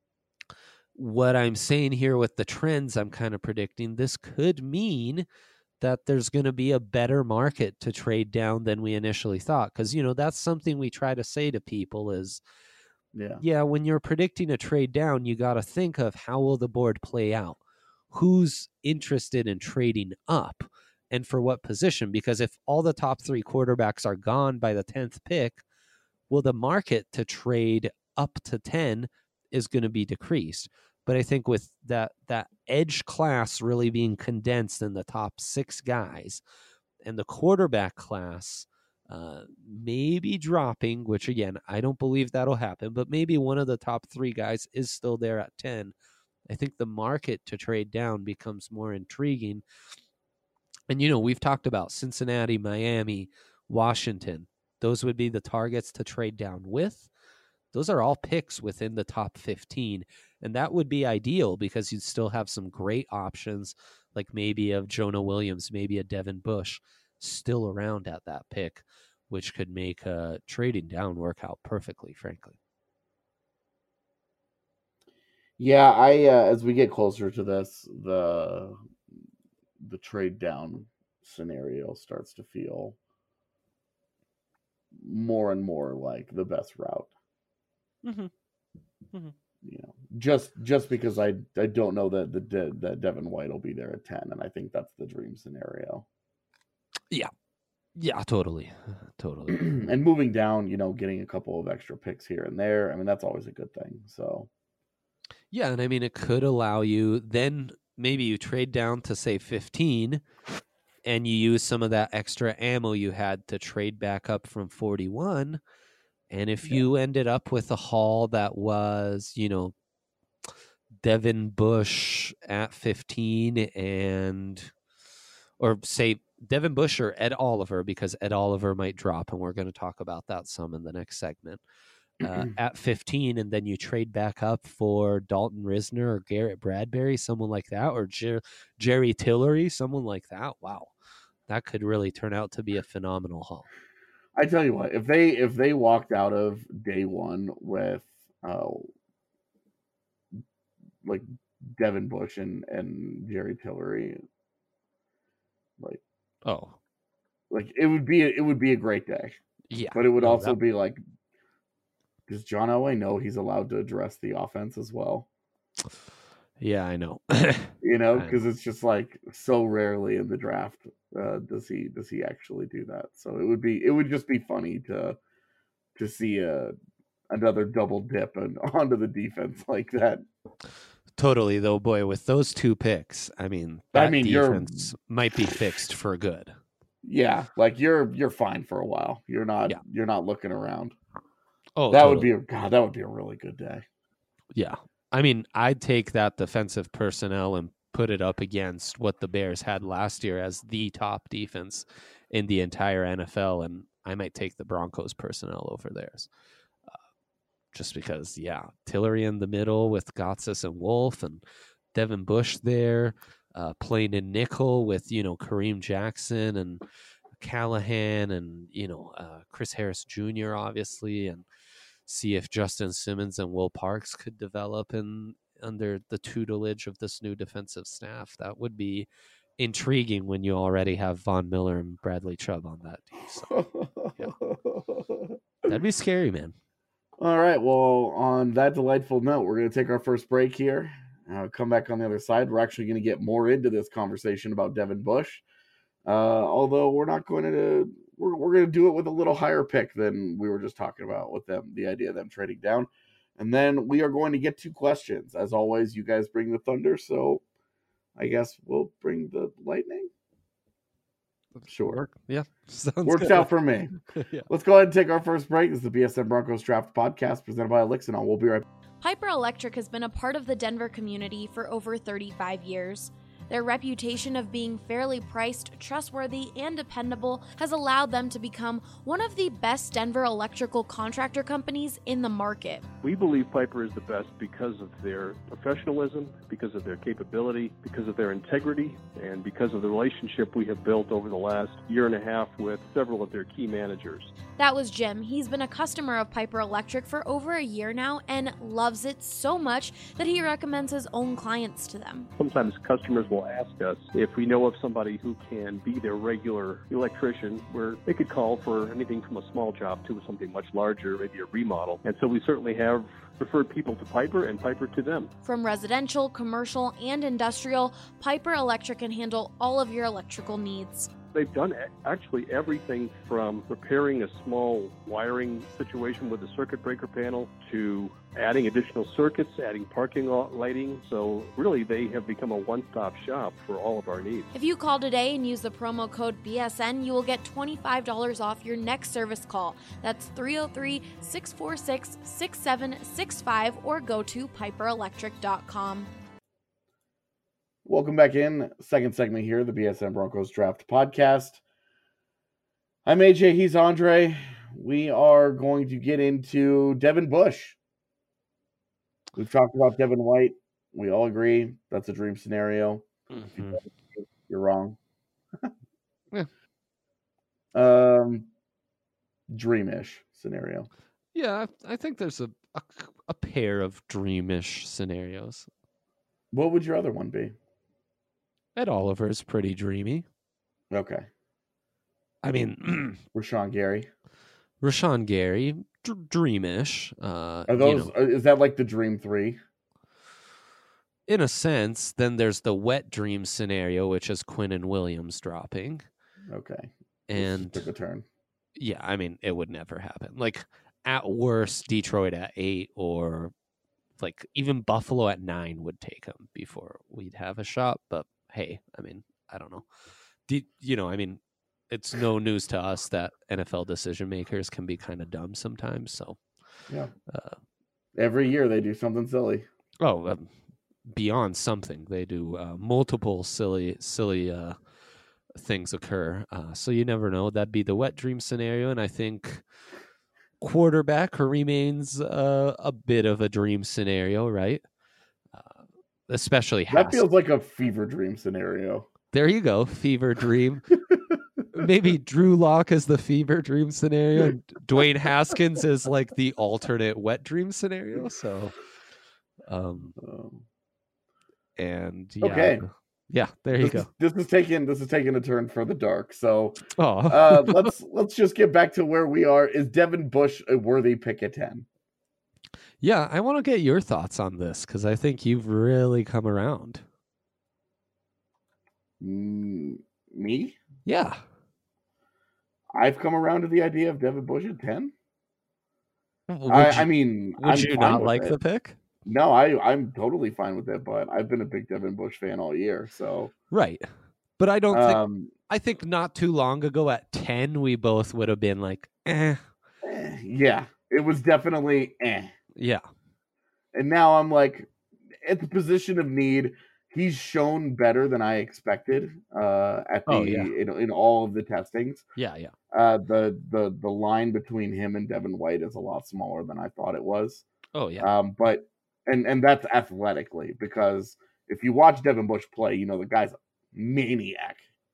what I'm saying here with the trends I'm kind of predicting, this could mean that there's going to be a better market to trade down than we initially thought. Because, you know, that's something we try to say to people is, yeah, yeah when you're predicting a trade down, you got to think of how will the board play out? Who's interested in trading up and for what position? Because if all the top three quarterbacks are gone by the tenth pick, well, the market to trade up to ten is going to be decreased. But I think with that that edge class really being condensed in the top six guys and the quarterback class uh, maybe dropping, which again, I don't believe that'll happen, but maybe one of the top three guys is still there at ten. I think the market to trade down becomes more intriguing. And, you know, we've talked about Cincinnati, Miami, Washington. Those would be the targets to trade down with. Those are all picks within the top fifteen. And that would be ideal because you'd still have some great options, like maybe of Jonah Williams, maybe a Devin Bush still around at that pick, which could make uh, trading down work out perfectly, frankly.
Yeah, I uh, as we get closer to this, the the trade down scenario starts to feel more and more like the best route.
Mm-hmm. Mm-hmm.
You know, just just because I I don't know that the De, that Devin White will be there at ten, and I think that's the dream scenario.
Yeah, yeah, totally, totally.
And moving down, you know, getting a couple of extra picks here and there. I mean, that's always a good thing. So,
yeah, and I mean, it could allow you then maybe you trade down to say fifteen, and you use some of that extra ammo you had to trade back up from forty-one. And if yeah. you ended up with a haul that was, you know, Devin Bush at fifteen and, or say Devin Bush or Ed Oliver, because Ed Oliver might drop, and we're going to talk about that some in the next segment. uh, at fifteen, and then you trade back up for Dalton Risner or Garrett Bradbury, someone like that, or Jer- Jerry Tillery, someone like that. Wow, that could really turn out to be a phenomenal haul.
I tell you what, if they if they walked out of day one with uh, like Devin Bush and, and Jerry Tillery, like
oh,
like it would be a, it would be a great day.
Yeah,
but it would
no,
also
that...
be like, does John Elway know he's allowed to address the offense as well?
Yeah, I know.
You know, because it's just like so rarely in the draft uh, does he does he actually do that. So it would be it would just be funny to to see a another double dip and onto the defense like that.
Totally, though, boy, with those two picks, I mean, that
I mean,
defense might be fixed for good.
Yeah, like you're you're fine for a while. You're not
yeah.
you're not looking around.
Oh,
that
totally.
would be a, God. That would be a really good day.
Yeah, I mean, I'd take that defensive personnel and put it up against what the Bears had last year as the top defense in the entire N F L, and I might take the Broncos personnel over theirs. Uh, just because, yeah, Tillery in the middle with Gotsis and Wolf, and Devin Bush there, uh, playing in nickel with, you know, Kareem Jackson and Callahan and, you know, uh, Chris Harris Junior, obviously, and see if Justin Simmons and Will Parks could develop in under the tutelage of this new defensive staff. That would be intriguing when you already have Von Miller and Bradley Chubb on that team. So, yeah. That'd be scary, man.
All right. Well, on that delightful note, we're going to take our first break here. Uh, come back on the other side. We're actually going to get more into this conversation about Devin Bush. Uh, although we're not going to, we're, we're going to do it with a little higher pick than we were just talking about with them, the idea of them trading down. And then we are going to get to questions. As always, you guys bring the thunder, so I guess we'll bring the lightning. Sure.
Yeah.
Works
good.
out for me. Yeah. Let's go ahead and take our first break. This is the B S N Broncos Draft Podcast presented by Elixinol. We'll be right back.
Piper Electric has been a part of the Denver community for over thirty-five years. Their reputation of being fairly priced, trustworthy, and dependable has allowed them to become one of the best Denver electrical contractor companies in the market.
We believe Piper is the best because of their professionalism, because of their capability, because of their integrity, and because of the relationship we have built over the last year and a half with several of their key managers.
That was Jim. He's been a customer of Piper Electric for over a year now and loves it so much that he recommends his own clients to them.
Sometimes customers will ask us if we know of somebody who can be their regular electrician, where they could call for anything from a small job to something much larger, maybe a remodel. And so we certainly have referred people to Piper and Piper to them.
From residential, commercial, and industrial, Piper Electric can handle all of your electrical needs.
They've done actually everything from repairing a small wiring situation with a circuit breaker panel to adding additional circuits, adding parking lighting. So really, they have become a one-stop shop for all of our needs.
If you call today and use the promo code B S N, you will get twenty-five dollars off your next service call. That's three oh three, six four six, six seven six five or go to piper electric dot com.
Welcome back in. Second segment here, the B S N Broncos Draft Podcast. I'm A J, he's Andre. We are going to get into Devin Bush. We've talked about Devin White. We all agree that's a dream scenario. Mm-hmm. You're wrong.
Yeah.
Um, dreamish scenario.
Yeah, I think there's a, a, a pair of dreamish scenarios.
What would your other one be?
Ed Oliver's pretty dreamy.
Okay.
I mean,
Rashawn Gary.
Rashawn Gary, d- dreamish. Uh,
Are those?
You know,
is that like the dream three?
In a sense, then there's the wet dream scenario, which is Quinnen Williams dropping.
Okay.
And
took a turn.
Yeah, I mean, it would never happen. Like at worst, Detroit at eight, or like even Buffalo at nine would take him before we'd have a shot. But hey, I mean, I don't know. De- you know, I mean, it's no news to us that N F L decision makers can be kind of dumb sometimes. So,
yeah,
uh,
every year they do something silly.
Oh, um, beyond something, they do uh, multiple silly, silly uh, things occur. Uh, so you never know. That'd be the wet dream scenario, and I think quarterback remains uh, a bit of a dream scenario, right? Uh, especially
That
Haskins.
feels like a fever dream scenario.
There you go, fever dream. Maybe Drew Lock is the fever dream scenario, and Dwayne Haskins is like the alternate wet dream scenario. So, um,
Um,
and yeah,
Okay.
yeah, there you
this
go.
Is, this is taking this is taking a turn for the dark. So
Oh,
uh, let's let's just get back to where we are. Is Devin Bush a worthy pick at ten?
yeah, I want to get your thoughts on this because I think you've really come around.
Mm, me?
Yeah.
I've come around to the idea of Devin Bush at ten.
Would
I,
you,
I mean,
would
I'm
you
fine
not
with
like
it.
the pick?
No, I I'm totally fine with it, but I've been a big Devin Bush fan all year. So
Right. But I don't think
um,
I think not too long ago at ten we both would have been like, eh.
eh, yeah, it was definitely eh.
Yeah.
And now I'm like, at the position of need, he's shown better than I expected uh, at the
Oh, yeah.
in, in all of the testings.
Yeah, yeah.
Uh, the the the line between him and Devin White is a lot smaller than I thought it was.
Oh, yeah.
Um, but and and that's athletically, because if you watch Devin Bush play, you know the guy's a maniac.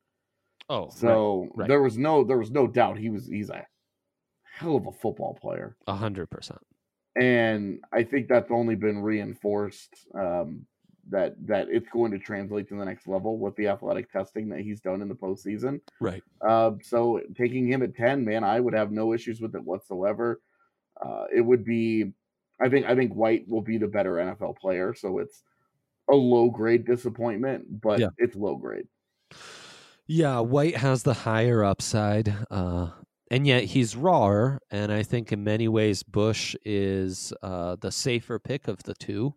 Oh,
So
right, right.
there was no there was no doubt he was he's a hell of a football player.
A hundred percent.
And I think that's only been reinforced um, that that it's going to translate to the next level with the athletic testing that he's done in the postseason.
Right.
Uh, so taking him at ten, man, I would have no issues with it whatsoever. Uh, it would be, I think, I think White will be the better N F L player. So it's a low grade disappointment, but
Yeah.
it's low grade.
Yeah, White has the higher upside, uh, and yet he's rawer. And I think in many ways Bush is uh, the safer pick of the two.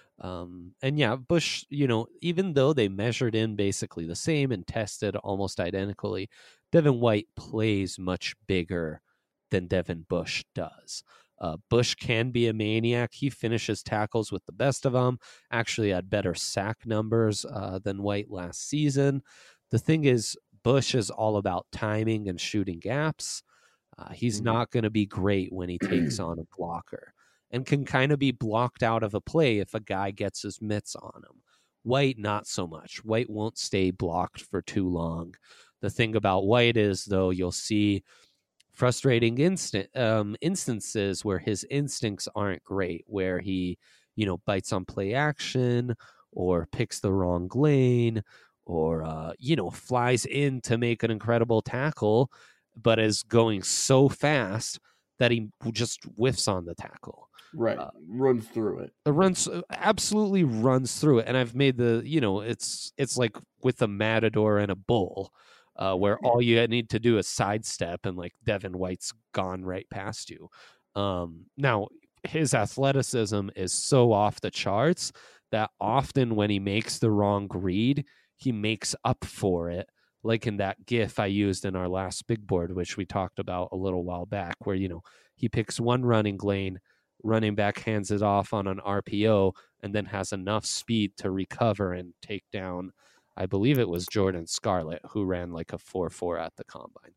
Um, and yeah, Bush, you know, even though they measured in basically the same and tested almost identically, Devin White plays much bigger than Devin Bush does. Uh, Bush can be a maniac. He finishes tackles with the best of them, actually had better sack numbers uh, than White last season. The thing is, Bush is all about timing and shooting gaps. Uh, he's
Mm-hmm.
not going to be great when he takes on a blocker and can kind of be blocked out of a play if a guy gets his mitts on him. White, not so much. White won't stay blocked for too long. The thing about White is, though, you'll see frustrating instant um, instances where his instincts aren't great, where he, you know, bites on play action or picks the wrong lane or, uh, you know, flies in to make an incredible tackle, but is going so fast that he just whiffs on the tackle.
Right.
Uh,
runs through it.
It runs absolutely runs through it. And I've made the, you know, it's it's like with a matador and a bull, uh, where all you need to do is sidestep and like Devin White's gone right past you. Um, now his athleticism is so off the charts that often when he makes the wrong read, he makes up for it. Like in that GIF I used in our last big board, which we talked about a little while back, where, you know, he picks one running lane, running back hands it off on an R P O, and then has enough speed to recover and take down, I believe it was Jordan Scarlett, who ran like a four four at the combine,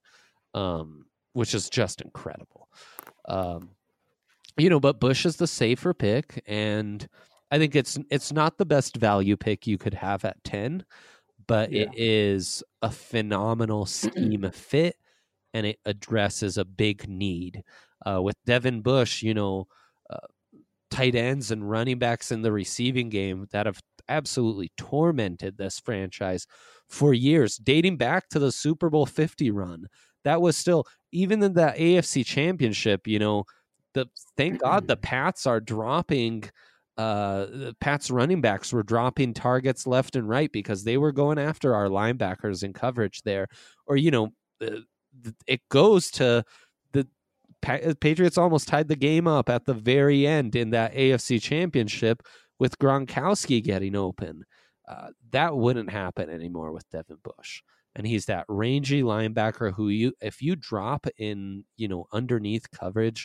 um, which is just incredible. Um, you know, but Bush is the safer pick, and I think it's it's not the best value pick you could have at ten, but
Yeah.
it is a phenomenal scheme fit, and it addresses a big need. Uh, with Devin Bush, you know, uh, tight ends and running backs in the receiving game that have absolutely tormented this franchise for years, dating back to the Super Bowl fifty run. That was still, even in the A F C Championship, you know, the thank God the Pats are dropping, uh, the Pats running backs were dropping targets left and right because they were going after our linebackers in coverage there. Or, you know, uh, it goes to the Patriots almost tied the game up at the very end in that A F C Championship with Gronkowski getting open. Uh, that wouldn't happen anymore with Devin Bush. And he's that rangy linebacker who you, if you drop in, you know, underneath coverage,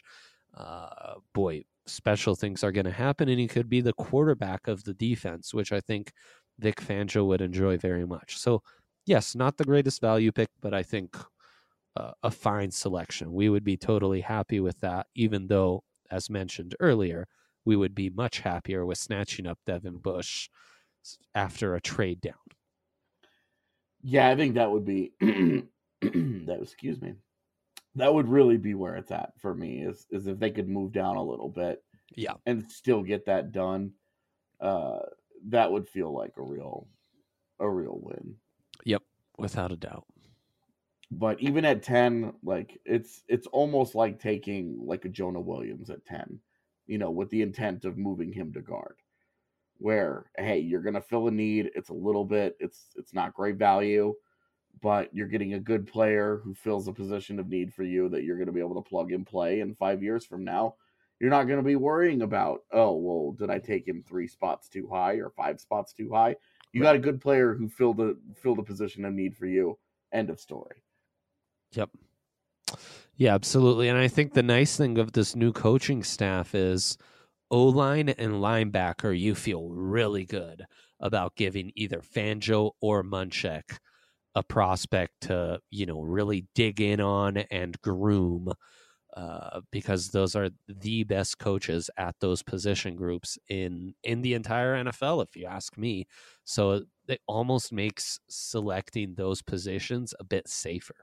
uh, boy, special things are going to happen. And he could be the quarterback of the defense, which I think Vic Fangio would enjoy very much. So yes, not the greatest value pick, but I think a, a fine selection. We would be totally happy with that, even though, as mentioned earlier, we would be much happier with snatching up Devin Bush after a trade down.
Yeah, I think that would be that. Excuse me. That would really be where it's at for me. Is is if they could move down a little bit,
yeah,
and still get that done. Uh, that would feel like a real, a real win.
Yep, without a doubt.
But even at ten, like it's it's almost like taking like a Jonah Williams at ten, you know, with the intent of moving him to guard. Where, hey, you're gonna fill a need. It's a little bit, it's it's not great value, but you're getting a good player who fills a position of need for you that you're gonna be able to plug and play. And five years from now, you're not gonna be worrying about, oh, well, did I take him three spots too high or five spots too high? You got a good player who filled a filled a position of need for you. End of story.
Yep. Yeah, absolutely. And I think the nice thing of this new coaching staff is O-line and linebacker, you feel really good about giving either Fangio or Munchak a prospect to, you know, really dig in on and groom, uh, because those are the best coaches at those position groups in, in the entire N F L, if you ask me. So it almost makes selecting those positions a bit safer.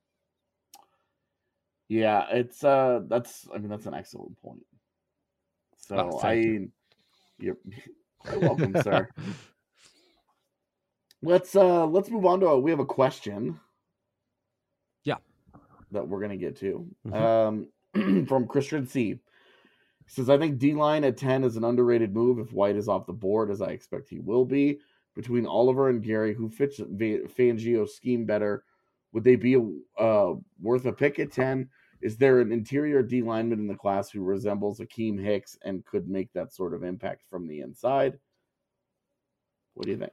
Yeah, it's uh that's I mean that's an excellent point. So
oh,
I
you.
You're quite welcome, sir. Let's uh let's move on to a, we have a question.
Yeah.
That we're gonna get to.
Mm-hmm.
Um from Christian C. He says, I think D-line at ten is an underrated move if White is off the board, as I expect he will be. Between Oliver and Gary, who fits Fangio's scheme better? Would they be uh, worth a pick at ten? Is there an interior D lineman in the class who resembles Akeem Hicks and could make that sort of impact from the inside? What do you think?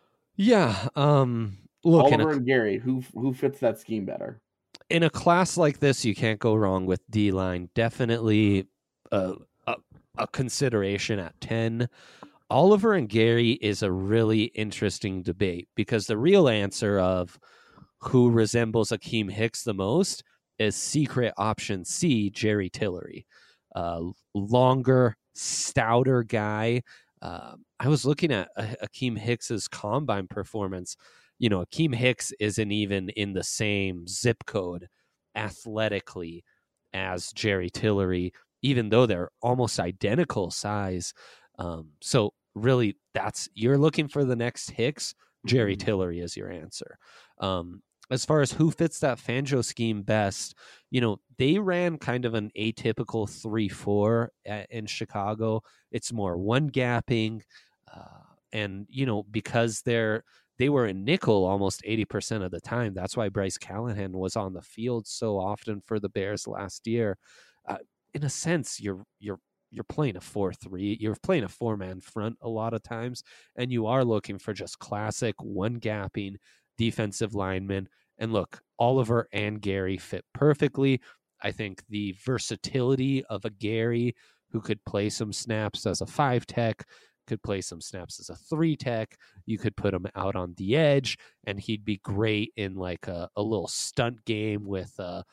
Yeah. Um, look,
Oliver
a,
and Gary, who who fits that scheme better?
In a class like this, you can't go wrong with D line. Definitely a, a, a consideration at ten. Oliver and Gary is a really interesting debate because the real answer of who resembles Akeem Hicks the most is secret option C, Jerry Tillery. Uh, longer, stouter guy. Uh, I was looking at uh, Akeem Hicks's combine performance. You know, Akeem Hicks isn't even in the same zip code athletically as Jerry Tillery, even though they're almost identical size. Um, so really, that's you're looking for the next Hicks. Jerry Tillery is your answer. Um, as far as who fits that Fangio scheme best, you know, they ran kind of an atypical three four in Chicago. It's more one gapping. Uh, and, you know, because they're, they were in nickel almost eighty percent of the time. That's why Bryce Callahan was on the field so often for the Bears last year. Uh, in a sense, you're, you're, you're playing a four three, you're playing a four-man front a lot of times, and you are looking for just classic one-gapping defensive linemen. And look, Oliver and Gary fit perfectly. I think the versatility of a Gary who could play some snaps as a five-tech, could play some snaps as a three-tech, you could put him out on the edge, and he'd be great in like a, a little stunt game with uh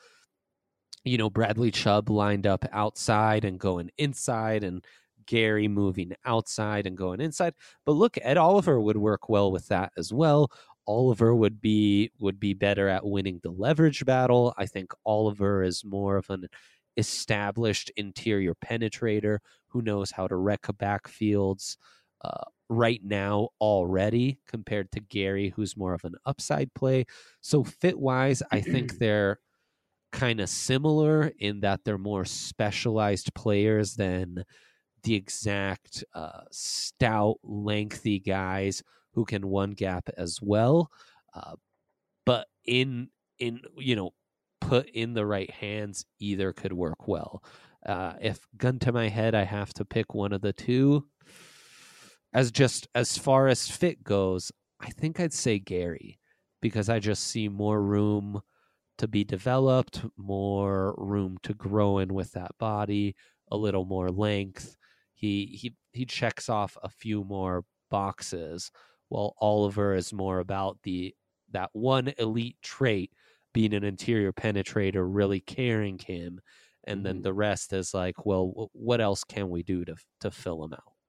you know, Bradley Chubb lined up outside and going inside, and Gary moving outside and going inside. But look, Ed Oliver would work well with that as well. Oliver would be would be better at winning the leverage battle. I think Oliver is more of an established interior penetrator who knows how to wreck backfields uh, right now already, compared to Gary, who's more of an upside play. So fit-wise, I think they're kind of similar in that they're more specialized players than the exact uh, stout, lengthy guys who can one gap as well. Uh, but in, in, you know, put in the right hands, either could work well. Uh, if gun to my head, I have to pick one of the two. As just as far as fit goes, I think I'd say Gary, because I just see more room to be developed, more room to grow in with that body, a little more length. He he he checks off a few more boxes, while Oliver is more about the that one elite trait being an interior penetrator, really carrying him. And mm-hmm. then the rest is like, well, what else can we do to to fill him out?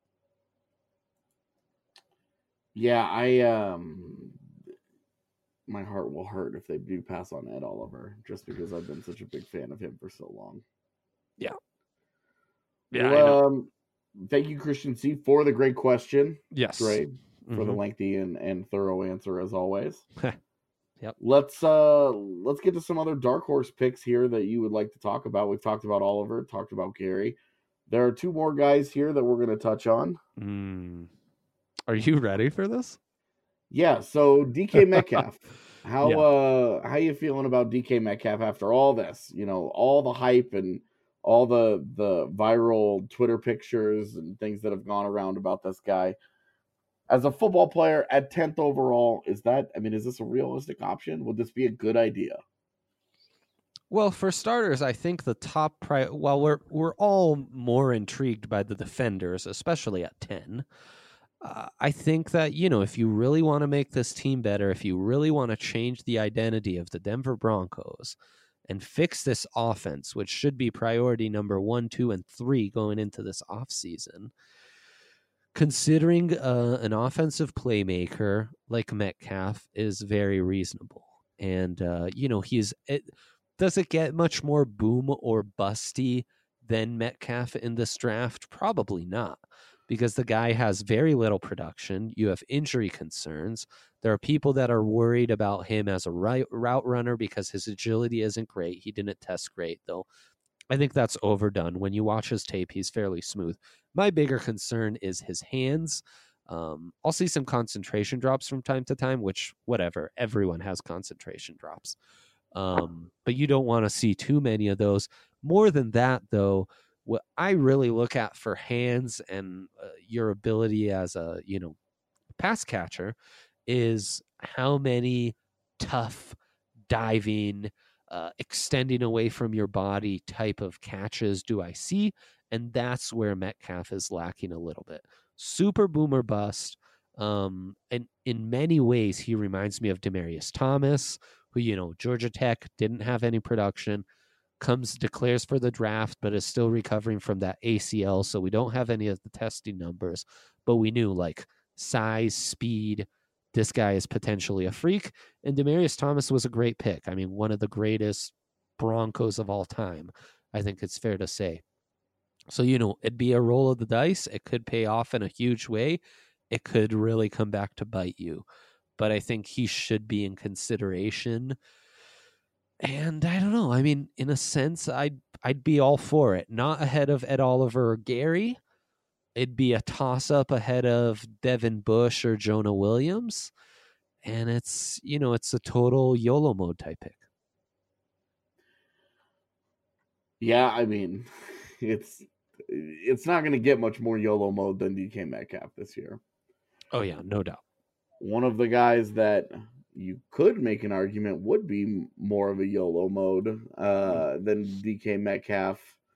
Yeah, I um, my heart will hurt if they do pass on Ed Oliver, just because I've been such a big fan of him for so long.
Yeah. Yeah.
Well, um, thank you, Christian C, for the great question.
Yes.
Great. For
mm-hmm.
the lengthy and, and thorough answer as always.
Yep.
Let's uh let's get to some other dark horse picks here that you would like to talk about. We've talked about Oliver, talked about Gary. There are two more guys here that we're going to touch on.
Mm. Are you ready for this?
Yeah. So D K Metcalf, how yeah. uh how you feeling about D K Metcalf after all this? You know, all the hype and all the the viral Twitter pictures and things that have gone around about this guy. As a football player at tenth overall, is that, I mean, is this a realistic option? Would this be a good idea?
Well, for starters, I think the top pri- while we're we're all more intrigued by the defenders, especially at ten, uh, I think that, you know, if you really want to make this team better, if you really want to change the identity of the Denver Broncos and fix this offense, which should be priority number one, two, and three going into this offseason, considering uh, an offensive playmaker like Metcalf is very reasonable. And, uh, you know, he's it, does it get much more boom or busty than Metcalf in this draft? Probably not, because the guy has very little production. You have injury concerns. There are people that are worried about him as a route runner because his agility isn't great. He didn't test great, though. I think that's overdone. When you watch his tape, he's fairly smooth. My bigger concern is his hands. Um, I'll see some concentration drops from time to time, which, whatever, everyone has concentration drops. Um, but you don't want to see too many of those. More than that, though, what I really look at for hands and uh, your ability as a, you know, pass catcher is how many tough, diving, Uh, extending away from your body type of catches do I see? And that's where Metcalf is lacking a little bit. Super boomer bust. Um, and in many ways, he reminds me of Demaryius Thomas, who, you know, Georgia Tech didn't have any production, comes, declares for the draft, but is still recovering from that A C L. So we don't have any of the testing numbers, but we knew like size, speed, this guy is potentially a freak. And Demaryius Thomas was a great pick. I mean, one of the greatest Broncos of all time, I think it's fair to say. So, you know, it'd be a roll of the dice. It could pay off in a huge way. It could really come back to bite you. But I think he should be in consideration. And I don't know. I mean, in a sense, I'd, I'd be all for it. Not ahead of Ed Oliver or Gary. It'd be a toss-up ahead of Devin Bush or Jonah Williams. And it's, you know, it's a total YOLO mode type pick.
Yeah, I mean, it's it's not going to get much more YOLO mode than D K Metcalf this year.
Oh, yeah, no doubt.
One of the guys that you could make an argument would be more of a YOLO mode uh, than D K Metcalf.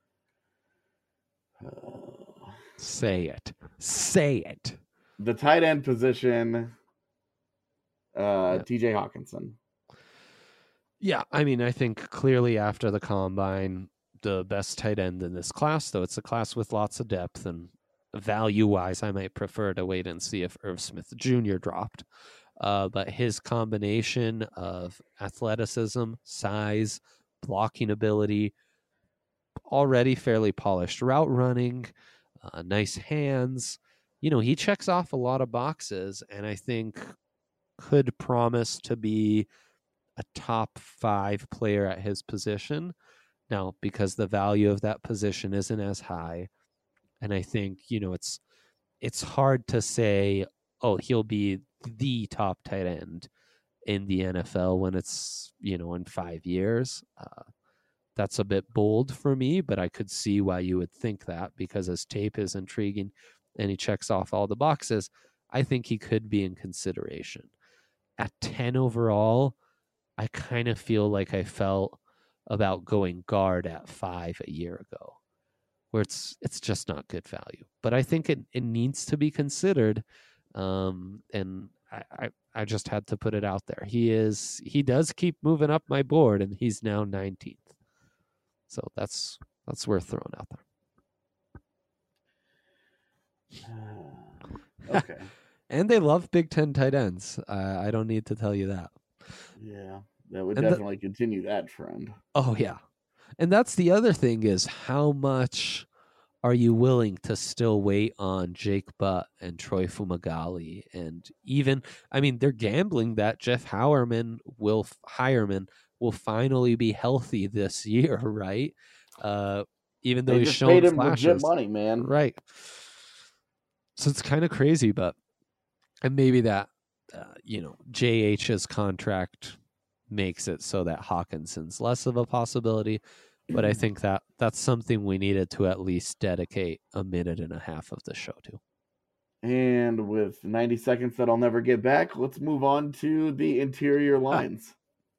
Uh,
Say it. Say it.
The tight end position, uh, yeah. T J Hawkinson.
Yeah, I mean, I think clearly after the combine, the best tight end in this class, though it's a class with lots of depth, and value-wise, I might prefer to wait and see if Irv Smith Junior dropped. Uh, but his combination of athleticism, size, blocking ability, already fairly polished route running, Uh, nice hands. You know, he checks off a lot of boxes, and I think could promise to be a top five player at his position. Now, because the value of that position isn't as high, and I think, you know, it's it's hard to say, oh, he'll be the top tight end in the N F L when it's, you know, in five years. Uh, That's a bit bold for me, but I could see why you would think that because his tape is intriguing and he checks off all the boxes. I think he could be in consideration. At ten overall, I kind of feel like I felt about going guard at five a year ago, where it's it's just not good value. But I think it, it needs to be considered. Um, and I, I, I just had to put it out there. He is he does keep moving up my board, and he's now nineteenth. So that's that's worth throwing out
there. Okay.
And they love Big Ten tight ends. Uh, I don't need to tell you that.
Yeah, that would
And
definitely
the,
continue that trend.
Oh, yeah. And that's the other thing is how much are you willing to still wait on Jake Butt and Troy Fumagalli? And even, I mean, they're gambling that Jeff Howerman will, Hireman will finally be healthy this year, right? Uh, even though
they
he's
just
shown
paid him
flashes.
legit money, man.
Right. So it's kind of crazy, but, and maybe that, uh, you know, J H's contract makes it so that Hawkinson's less of a possibility. But I think that that's something we needed to at least dedicate a minute and a half of the show to.
And with ninety seconds that I'll never get back, let's move on to the interior lines.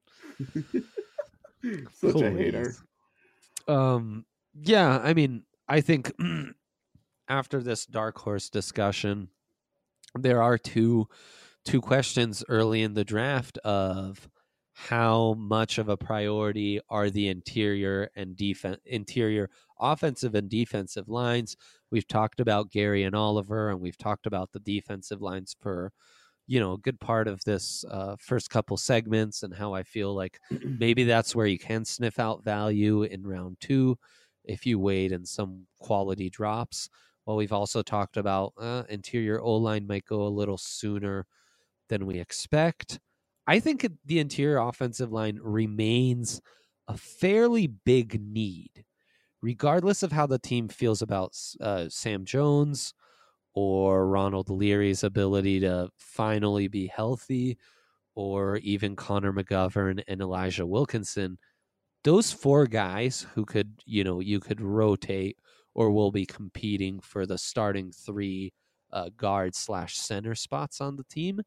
Such
Please.
a hater.
Um, yeah, I mean, I think after this dark horse discussion, there are two two questions early in the draft of how much of a priority are the interior and defense, interior offensive and defensive lines. We've talked about Gary and Oliver, and we've talked about the defensive lines for, you know, a good part of this uh, first couple segments, and how I feel like maybe that's where you can sniff out value in round two if you wait in some quality drops. Well, we've also talked about uh, interior O-line might go a little sooner than we expect. I think it, the interior offensive line remains a fairly big need, regardless of how the team feels about uh, Sam Jones or Ronald Leary's ability to finally be healthy, or even Connor McGovern and Elijah Wilkinson. Those four guys who could, you know, you could rotate or will be competing for the starting three uh, guard slash center spots on the team.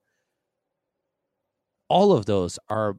All of those are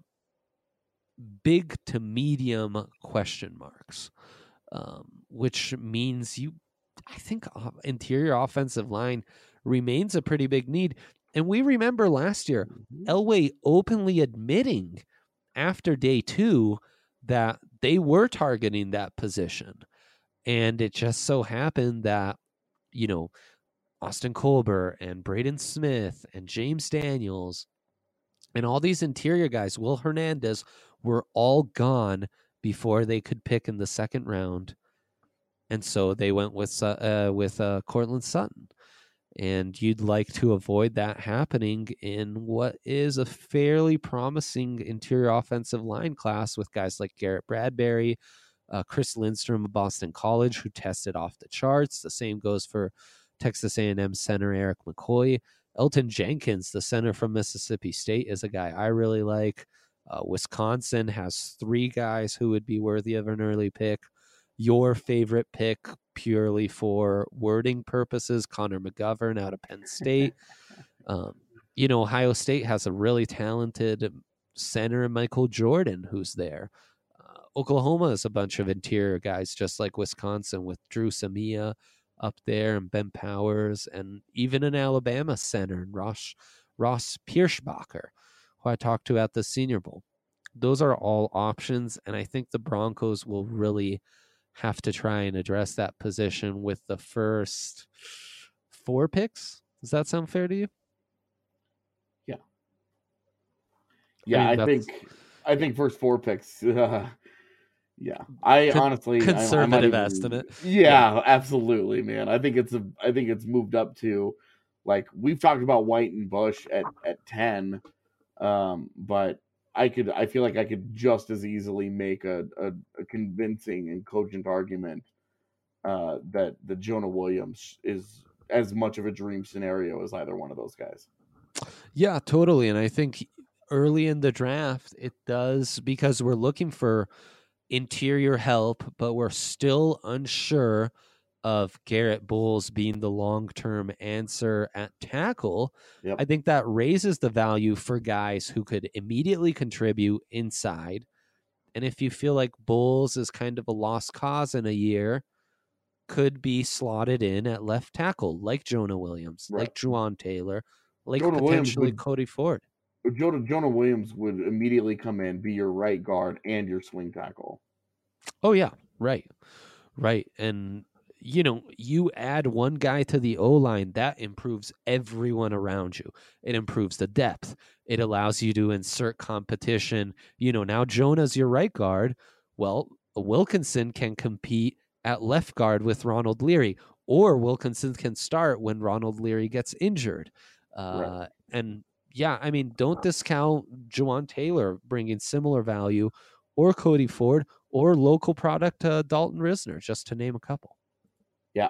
big to medium question marks, um, which means you, I think interior offensive line remains a pretty big need. And we remember last year, mm-hmm. Elway openly admitting after day two that they were targeting that position. And it just so happened that, you know, Austin Colbert and Braden Smith and James Daniels and all these interior guys, Will Hernandez, were all gone before they could pick in the second round. And so they went with uh, with uh, Cortland Sutton. And you'd like to avoid that happening in what is a fairly promising interior offensive line class with guys like Garrett Bradbury, uh, Chris Lindstrom of Boston College, who tested off the charts. The same goes for Texas A and M center Eric McCoy. Elton Jenkins, the center from Mississippi State, is a guy I really like. Uh, Wisconsin has three guys who would be worthy of an early pick. Your favorite pick, purely for wording purposes, Connor McGovern out of Penn State. um, you know, Ohio State has a really talented center, Michael Jordan, who's there. Uh, Oklahoma is a bunch of interior guys, just like Wisconsin, with Drew Samia up there and Ben Powers, and even an Alabama center, Ross, Ross Pierschbacher, who I talked to at the Senior Bowl. Those are all options, and I think the Broncos will really have to try and address that position with the first four picks. Does that sound fair to you?
Yeah. Yeah, I, mean, I think I think first four picks. Uh, yeah, I Con- honestly
conservative
I, I
estimate.
Even, yeah, yeah, absolutely, man. I think it's a. I think it's moved up to, like, we've talked about White and Bush at at ten, um, but I could. I feel like I could just as easily make a a, a convincing and cogent argument uh, that the Jonah Williams is as much of a dream scenario as either one of those guys.
Yeah, totally, and I think early in the draft it does, because we're looking for interior help, but we're still unsure of Garrett Bowles being the long-term answer at tackle.
Yep.
I think that raises the value for guys who could immediately contribute inside. And if you feel like Bowles is kind of a lost cause in a year, could be slotted in at left tackle, like Jonah Williams,
right.
like Juwan Taylor, like
Jonah
potentially
would,
Cody Ford.
Jonah, Jonah Williams would immediately come in, be your right guard and your swing tackle.
Oh, yeah, right, right. And, you know, you add one guy to the O-line, that improves everyone around you. It improves the depth. It allows you to insert competition. You know, now Jonah's your right guard. Well, Wilkinson can compete at left guard with Ronald Leary, or Wilkinson can start when Ronald Leary gets injured. Uh, right. And, yeah, I mean, don't discount Juwan Taylor bringing similar value, or Cody Ford, or local product uh, Dalton Risner, just to name a couple.
Yeah.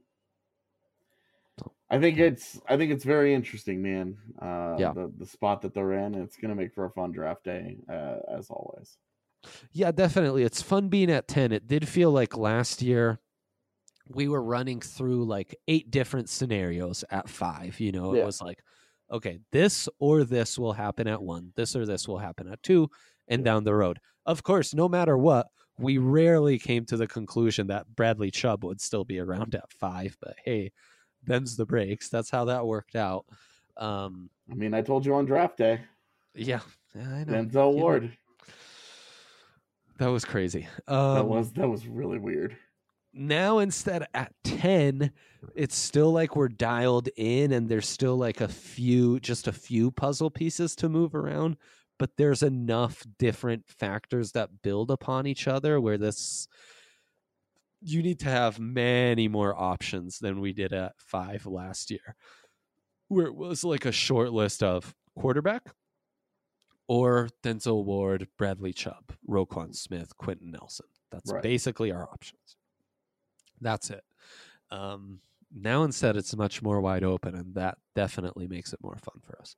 I think it's I think it's very interesting, man. Uh,
yeah.
The, the spot that they're in, it's going to make for a fun draft day, uh, as always.
Yeah, definitely. It's fun being at ten. It did feel like last year we were running through like eight different scenarios at five. You know, it yeah. was like, okay, this or this will happen at one. This or this will happen at two, and yeah. down the road. Of course, no matter what, we rarely came to the conclusion that Bradley Chubb would still be around at five. But hey, them's the breaks. That's how that worked out. Um,
I mean, I told you on draft day.
Yeah, yeah I know.
Denzel Ward. You know,
that was crazy. Um,
that was that was really weird.
Now instead at ten, it's still like we're dialed in, and there's still like a few, just a few puzzle pieces to move around. But there's enough different factors that build upon each other where this, you need to have many more options than we did at five last year, where it was like a short list of quarterback or Denzel Ward, Bradley Chubb, Roquan Smith, Quentin Nelson. That's right. Basically our options. That's it. Um, now instead it's much more wide open, and that definitely makes it more fun for us.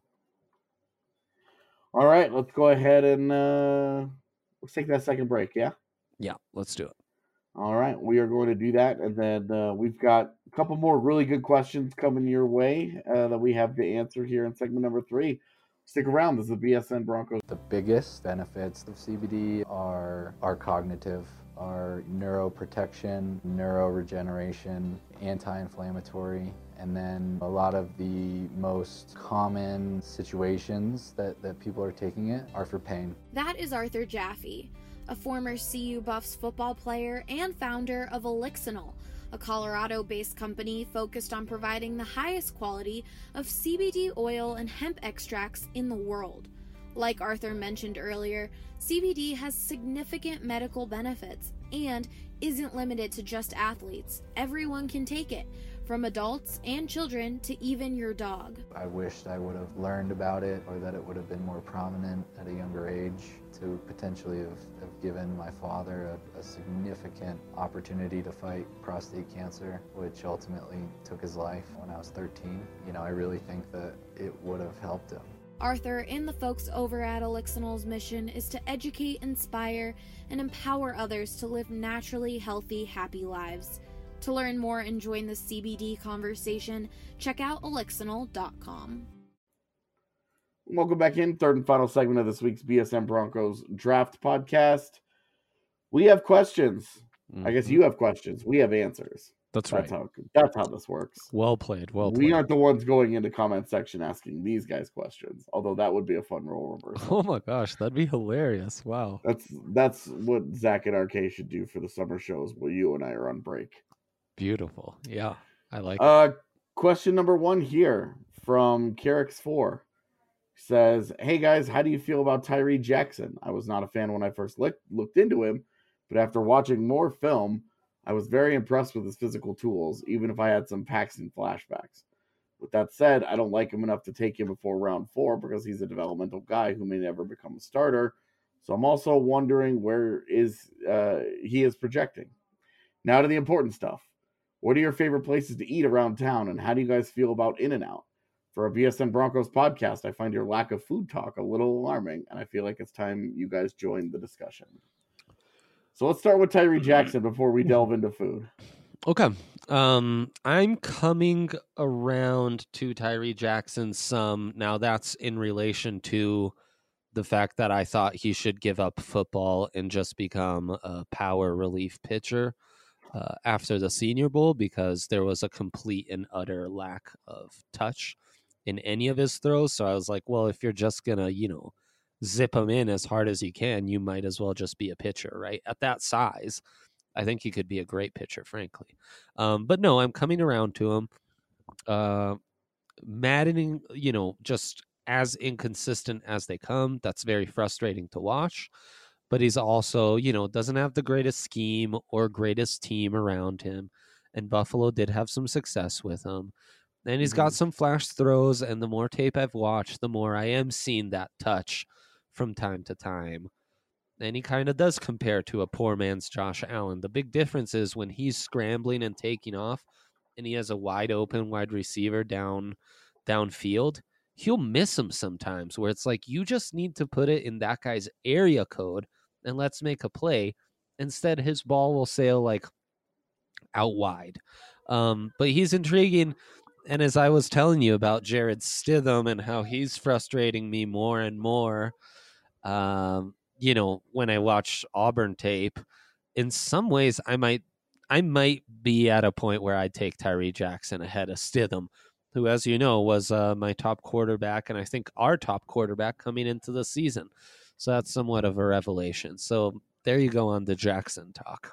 All right, let's go ahead and uh, let's take that second break, yeah?
Yeah, let's do it.
All right, we are going to do that, and then uh, we've got a couple more really good questions coming your way uh, that we have to answer here in segment number three. Stick around. This is the B S N Broncos.
The biggest benefits of C B D are, are cognitive, are neuroprotection, neuroregeneration, anti-inflammatory, and then a lot of the most common situations that, that people are taking it are for pain.
That is Arthur Jaffe, a former C U Buffs football player and founder of Elixinol, a Colorado-based company focused on providing the highest quality of C B D oil and hemp extracts in the world. Like Arthur mentioned earlier, C B D has significant medical benefits and isn't limited to just athletes. Everyone can take it, from adults and children to even your dog.
I wished I would have learned about it, or that it would have been more prominent at a younger age to potentially have, have given my father a, a significant opportunity to fight prostate cancer, which ultimately took his life when I was thirteen. You know, I really think that it would have helped him.
Arthur and the folks over at Elixinol's mission is to educate, inspire, and empower others to live naturally healthy, happy lives. To learn more and join the C B D conversation, check out elixinol dot com.
Welcome back in. Third and final segment of this week's B S N Broncos Draft Podcast. We have questions. Mm-hmm. I guess you have questions. We have answers.
That's,
that's
right.
How, that's how this works.
Well played. Well played.
We aren't the ones going into comment section asking these guys questions, although that would be a fun role reversal.
Oh my gosh, that'd be hilarious. Wow.
That's that's what Zach and R K should do for the summer shows while you and I are on break.
Beautiful. Yeah, I like
uh, it. Question number one here from Carrick's four says, hey guys, how do you feel about Tyree Jackson? I was not a fan when I first look, looked into him, but after watching more film, I was very impressed with his physical tools, even if I had some Paxton flashbacks. With that said, I don't like him enough to take him before round four because he's a developmental guy who may never become a starter. So I'm also wondering where is uh, he is projecting. Now to the important stuff. What are your favorite places to eat around town, and how do you guys feel about In-N-Out? For a B S N Broncos podcast, I find your lack of food talk a little alarming, and I feel like it's time you guys join the discussion. So let's start with Tyree Jackson before we delve into food.
Okay. Um, I'm coming around to Tyree Jackson some. Now that's in relation to the fact that I thought he should give up football and just become a power relief pitcher uh, after the Senior Bowl, because there was a complete and utter lack of touch in any of his throws. So I was like, well, if you're just going to, you know, zip him in as hard as you can, you might as well just be a pitcher, right? At that size, I think he could be a great pitcher, frankly. Um, but no, I'm coming around to him. Uh, maddening, you know, just as inconsistent as they come. That's very frustrating to watch. But he's also, you know, doesn't have the greatest scheme or greatest team around him. And Buffalo did have some success with him. And he's mm-hmm. got some flash throws. And the more tape I've watched, the more I am seeing that touch from time to time. And he kind of does compare to a poor man's Josh Allen. The big difference is when he's scrambling and taking off and he has a wide open wide receiver down downfield, he'll miss him sometimes where it's like, you just need to put it in that guy's area code and let's make a play. Instead, his ball will sail like out wide. Um, but he's intriguing. And as I was telling you about Jared Stidham and how he's frustrating me more and more, um, you know, when I watch Auburn tape, in some ways I might I might be at a point where I'd take Tyree Jackson ahead of Stidham, who, as you know, was uh, my top quarterback and I think our top quarterback coming into the season. So that's somewhat of a revelation. So there you go on the Jackson talk.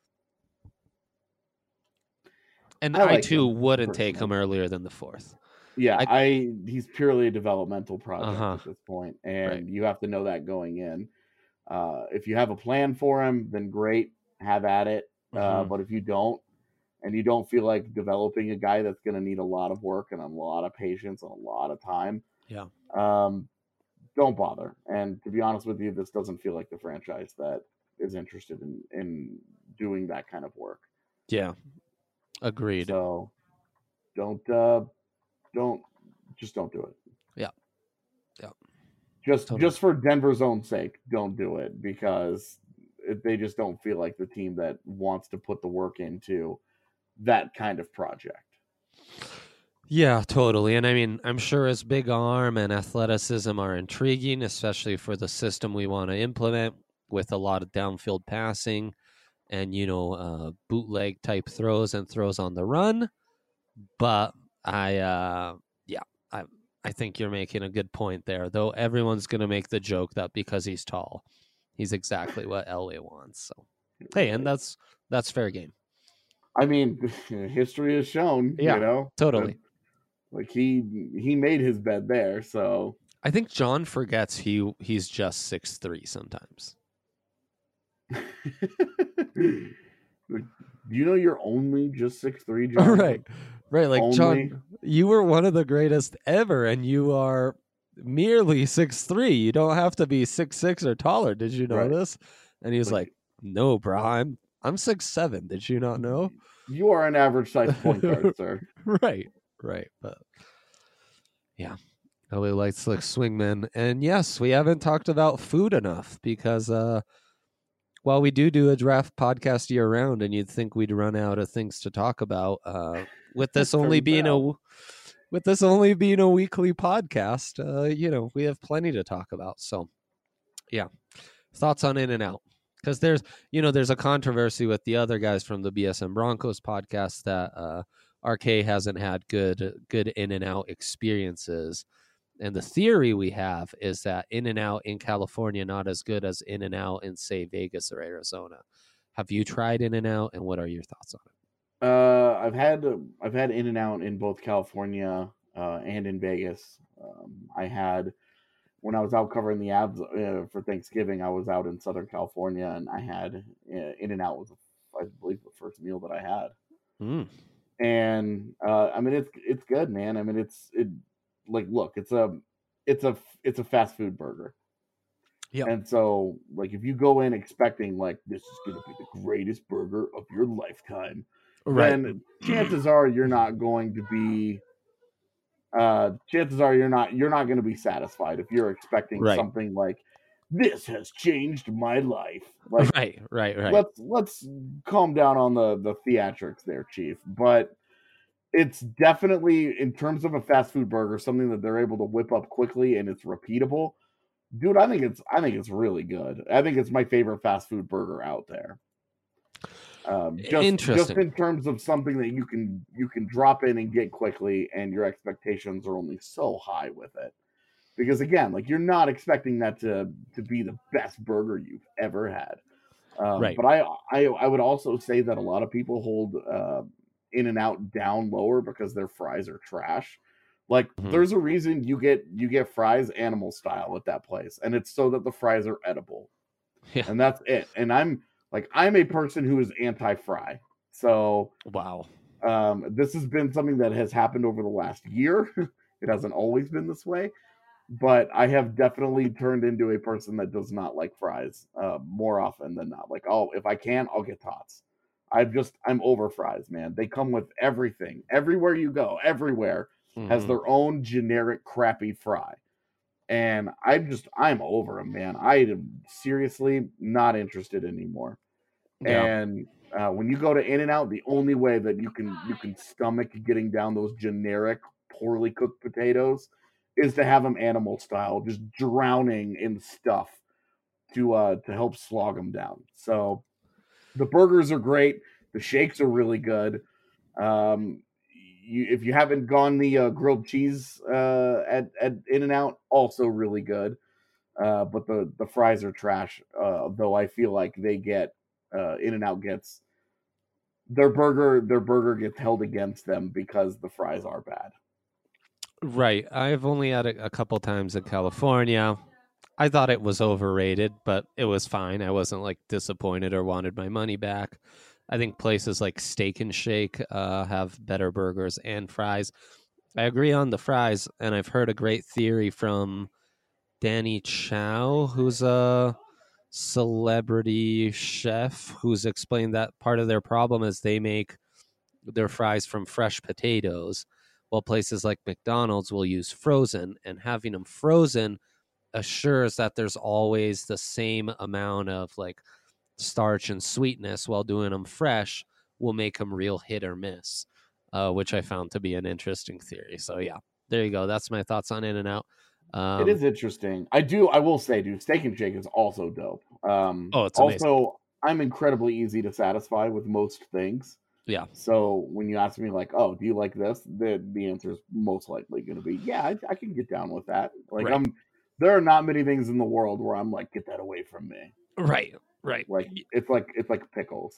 And I, like I too wouldn't personally. take him earlier than the fourth.
Yeah, I,
I
he's purely a developmental project
uh-huh.
at this point, and
right.
you have to know that going in. Uh, if you have a plan for him, then great, have at it. Uh,
Mm-hmm.
But if you don't, and you don't feel like developing a guy that's going to need a lot of work and a lot of patience and a lot of time,
yeah,
um, don't bother. And to be honest with you, this doesn't feel like the franchise that is interested in, in doing that kind of work.
Yeah, agreed.
So don't, uh, don't, just don't do it.
Yeah, yeah.
Just,
Totally.
just for Denver's own sake, don't do it because it, they just don't feel like the team that wants to put the work into that kind of project.
Yeah, totally. And I mean, I'm sure his big arm and athleticism are intriguing, especially for the system we want to implement with a lot of downfield passing and, you know, uh, bootleg type throws and throws on the run. But I, uh, yeah, I, I think you're making a good point there, though everyone's going to make the joke that because he's tall, he's exactly what Elway wants. So, hey, and that's, that's fair game.
I mean, history has shown,
yeah,
you know,
totally.
That, like he he made his bed there, so
I think John forgets he he's just six three sometimes.
Do you know you're only just six three, John?
Right, right. Like
only...
John, you were one of the greatest ever, and you are merely six three. You don't have to be six six or taller. Did you know
right.
this? And he was like,
like,
"No, bro, I'm I'm six seven. Did you not know?
You are an average size point guard, sir."
Right. Right, but yeah, L A likes like swingmen, and yes, we haven't talked about food enough because uh, while we do do a draft podcast year round, and you'd think we'd run out of things to talk about, uh, with this only being out. a with this only being a weekly podcast, uh, you know, we have plenty to talk about. So, yeah, thoughts on In-N-Out. Because there's, you know, there's a controversy with the other guys from the B S M Broncos podcast that uh, R K hasn't had good good In-N-Out experiences. And the theory we have is that In-N-Out in California not as good as In-N-Out in, say, Vegas or Arizona. Have you tried In-N-Out, and what are your thoughts on it?
Uh, I've had I've had In-N-Out in both California uh, and in Vegas. Um, I had when I was out covering the Avs uh, for Thanksgiving. I was out in Southern California, and I had uh, In-N-Out was I believe the first meal that I had.
Mm.
And uh, I mean, it's it's good, man. I mean, it's it like look, it's a it's a it's a fast food burger.
Yeah.
And so, like, if you go in expecting like this is going to be the greatest burger of your lifetime,
right.
then chances are you're not going to be. Uh, chances are you're not you're not going to be satisfied if you're expecting
right.
something like this has changed my life. Like,
right, right, right.
Let's let's calm down on the the theatrics there, Chief. But it's definitely, in terms of a fast food burger, something that they're able to whip up quickly and it's repeatable. Dude, I think it's I think it's really good. I think it's my favorite fast food burger out there. Um, just,
Interesting.
just in terms of something that you can you can drop in and get quickly, and your expectations are only so high with it. Because again, like you're not expecting that to to be the best burger you've ever had. Um,
Right.
But I, I I would also say that a lot of people hold uh, In-N-Out down lower because their fries are trash. Like
Mhm.
there's a reason you get you get fries animal style at that place, and it's so that the fries are edible.
Yeah.
And that's it. And I'm like I'm a person who is anti-fry. So
Wow.
um, this has been something that has happened over the last year. It hasn't always been this way, but I have definitely turned into a person that does not like fries uh, more often than not. Like, oh, if I can, I'll get tots. I've just I'm over fries, man. They come with everything. Everywhere you go, everywhere has
Mhm.
their own generic crappy fry. And I'm just I'm over them, man. I am seriously not interested anymore.
Yeah.
And uh, when you go to In-N-Out, the only way that you can you can stomach getting down those generic, poorly cooked potatoes is to have them animal style, just drowning in stuff to uh to help slog them down. So the burgers are great. The shakes are really good. Um, you, if you haven't gone the uh, grilled cheese uh, at at In-N-Out, also really good. Uh, but the the fries are trash. Uh, though I feel like they get uh, In-N-Out gets their burger their burger gets held against them because the fries are bad.
Right. I've only had it a couple times in California. I thought it was overrated, but it was fine. I wasn't like disappointed or wanted my money back. I think places like Steak and Shake uh, have better burgers and fries. I agree on the fries, and I've heard a great theory from Danny Chow, who's a celebrity chef, who's explained that part of their problem is they make their fries from fresh potatoes, while places like McDonald's will use frozen, and having them frozen assures that there's always the same amount of like starch and sweetness, while doing them fresh will make them real hit or miss, uh, which I found to be an interesting theory. So yeah, there you go. That's my thoughts on In-N-Out. Um,
It is interesting. I do. I will say, dude, Steak and Shake is also dope. Um,
Oh, it's amazing.
also, I'm incredibly easy to satisfy with most things.
Yeah.
So when you ask me, like, oh, do you like this? The the answer is most likely going to be, yeah, I, I can get down with that. Like,
Right.
I'm. There are not many things in the world where I'm like, get that away from me.
Right. Right.
Like, it's like it's like pickles,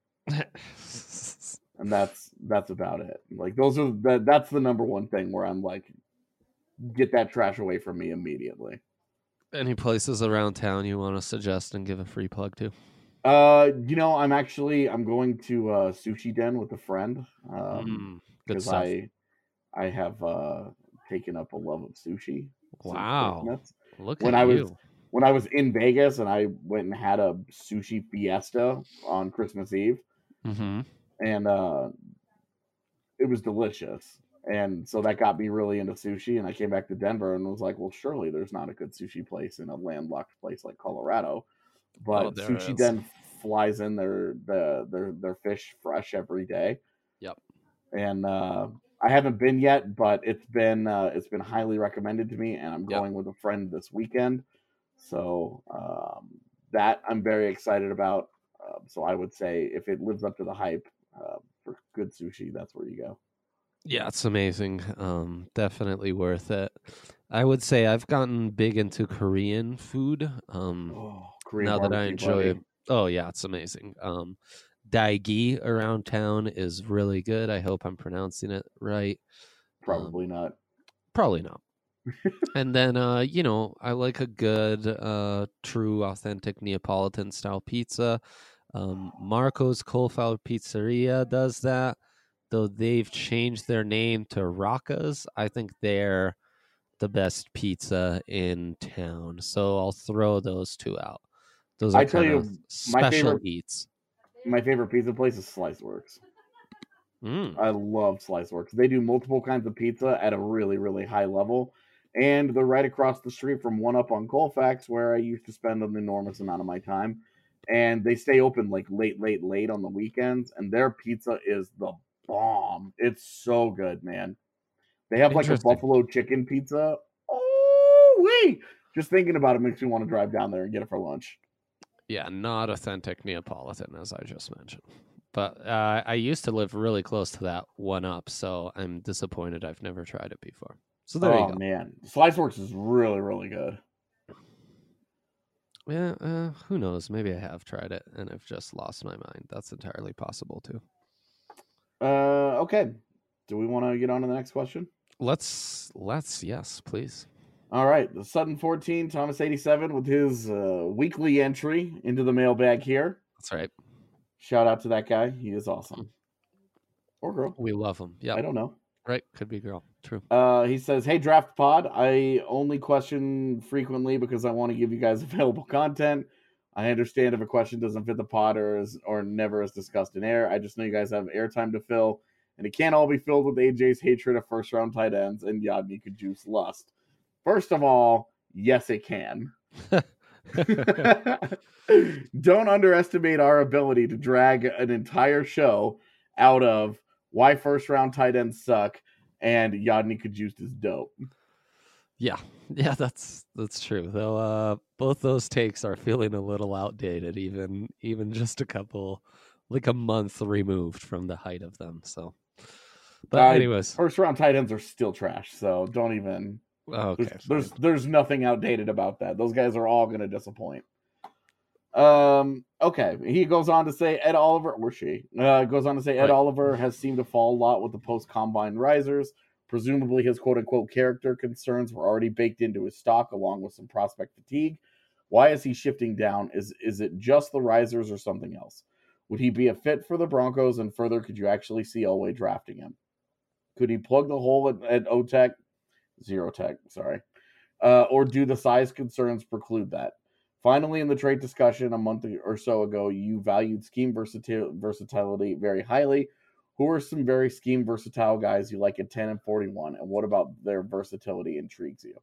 and that's that's about it. Like, those are that that's the number one thing where I'm like, get that trash away from me immediately.
Any places around town you want to suggest and give a free plug to?
Uh, you know, I'm actually I'm going to uh, Sushi Den with a friend. Um,
Mm, good
because
stuff.
I I have uh taken up a love of sushi. since
Wow.
Christmas.
Look
When
at
I was
you.
when I was in Vegas and I went and had a sushi fiesta on Christmas Eve,
Mm-hmm.
and uh, it was delicious. And so that got me really into sushi. And I came back to Denver and was like, well, surely there's not a good sushi place in a landlocked place like Colorado. But
Oh, there
Sushi
is.
Den flies in their the their their fish fresh every day.
Yep.
And uh, I haven't been yet, but it's been uh, it's been highly recommended to me, and I'm
Yep.
going with a friend this weekend. So um, that I'm very excited about. Uh, so I would say if it lives up to the hype uh, for good sushi, that's where you go.
Yeah, it's amazing. Um, definitely worth it. I would say I've gotten big into Korean food. Um,
Oh, Korean
now that I
barbecue,
enjoy
buddy.
Oh yeah, it's amazing. Um, Daegi around town is really good. I hope I'm pronouncing it right.
Probably
Um,
not.
Probably not. And then, uh, you know, I like a good, uh, true, authentic Neapolitan style pizza. Um, Marco's Coal-Fired Pizzeria does that, though they've changed their name to Rocca's. I think they're the best pizza in town. So I'll throw those two out. Those are
I tell
kind
you,
of
my
special
favorite
eats.
my favorite pizza place is Sliceworks.
Mm.
I love Sliceworks. They do multiple kinds of pizza at a really, really high level. And they're right across the street from One Up on Colfax, where I used to spend an enormous amount of my time. And they stay open like late, late, late on the weekends. And their pizza is the bomb. It's so good, man. They have like a
Interesting.
buffalo chicken pizza. Oh, wait. Just thinking about it makes me want to drive down there and get it for lunch.
Yeah, not authentic Neapolitan, as I just mentioned. But uh, I used to live really close to that one up, so I'm disappointed I've never tried it before. So there
oh,
you go.
man. Sliceworks is really, really good.
Yeah, uh, who knows? Maybe I have tried it and I've just lost my mind. That's entirely possible too.
Uh, okay. Do we want to get on to the next question?
Let's, let's, yes, please.
All right. The Sutton fourteen, Thomas eighty-seven with his uh, weekly entry into the mailbag here.
That's right.
Shout out to that guy. He is awesome. Or girl.
We love him. Yeah.
I don't know.
Right. Could be girl. True.
Uh, he says, hey, Draft Pod, I only question frequently because I want to give you guys available content. I understand if a question doesn't fit the pod or is or never is discussed in air. I just know you guys have airtime to fill, and it can't all be filled with A J's hatred of first-round tight ends and Yodny Cajuice lust. First of all, yes, it can. Don't underestimate our ability to drag an entire show out of why first-round tight ends suck and Yodny Cajuice is dope.
Yeah, yeah, that's that's true. Though uh, both those takes are feeling a little outdated, even even just a couple, like a month removed from the height of them. So, but
uh,
anyways,
first round tight ends are still trash. So don't even.
Oh, okay,
there's, there's there's nothing outdated about that. Those guys are all going to disappoint. Um. Okay. He goes on to say Ed Oliver, or she uh, goes on to say Ed
Right.
Oliver has seemed to fall a lot with the post combine risers. Presumably, his quote unquote character concerns were already baked into his stock, along with some prospect fatigue. Why is he shifting down? Is is it just the risers or something else? Would he be a fit for the Broncos? And further, could you actually see Elway drafting him? Could he plug the hole at, at O-Tech? Zero Tech, sorry. Uh, or do the size concerns preclude that? Finally, in the trade discussion a month or so ago, you valued scheme versatil- versatility very highly. Who are some very scheme versatile guys you like at ten and forty-one? And what about their versatility intrigues you?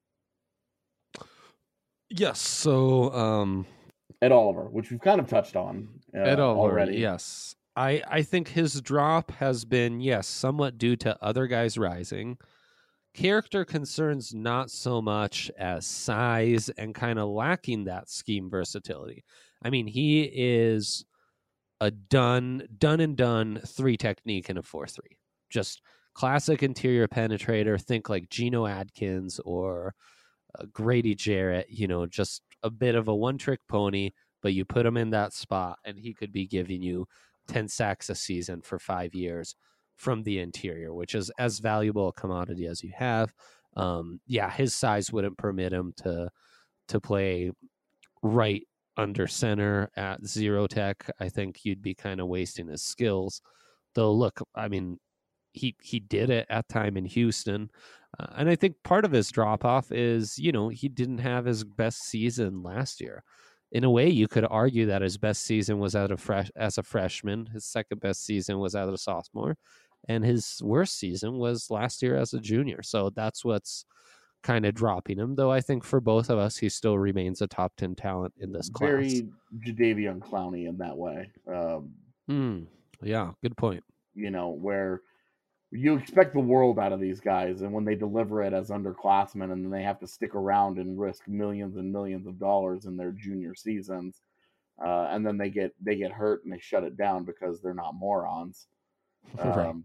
yes. So, um,
Ed Oliver, which we've kind of touched on uh,
Ed Oliver,
already.
yes. I I think his drop has been yes somewhat due to other guys rising. Character concerns not so much as size and kind of lacking that scheme versatility. I mean, he is a done, done and done three technique in a four three. Just classic interior penetrator. Think like Geno Adkins or uh, Grady Jarrett, you know, just a bit of a one trick pony, but you put him in that spot and he could be giving you ten sacks a season for five years from the interior, which is as valuable a commodity as you have. Um, yeah, his size wouldn't permit him to to play right under center at zero tech. I think you'd be kind of wasting his skills. Though, look, I mean, he he did it at time in Houston, uh, and I think part of his drop off is you know he didn't have his best season last year. In a way, you could argue that his best season was out of fresh as a freshman. His second best season was out of sophomore. And his worst season was last year as a junior. So that's what's kind of dropping him. Though I think for both of us, he still remains a top ten talent in this class.
Very Jadeveon Clowney in that way. Um,
mm, yeah, good point.
You know, where you expect the world out of these guys, and when they deliver it as underclassmen and then they have to stick around and risk millions and millions of dollars in their junior seasons, uh, and then they get they get hurt and they shut it down because they're not morons.
Right.
Um,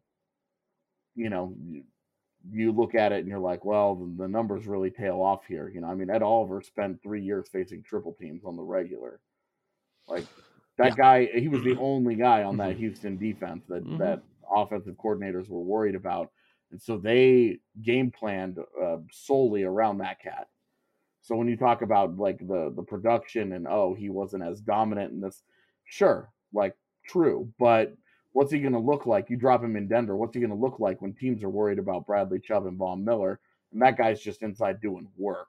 you know, you, you look at it and you're like, well, the, the numbers really tail off here. You know, I mean, Ed Oliver spent three years facing triple teams on the regular. Like that
Yeah.
guy, he was the only guy on that Houston defense that,
Mhm.
that offensive coordinators were worried about. And so they game planned uh, solely around that cat. So when you talk about like the, the production and, oh, he wasn't as dominant in this, sure, like true, but what's he going to look like? You drop him in Denver. What's he going to look like when teams are worried about Bradley Chubb and Von Miller? And that guy's just inside doing work.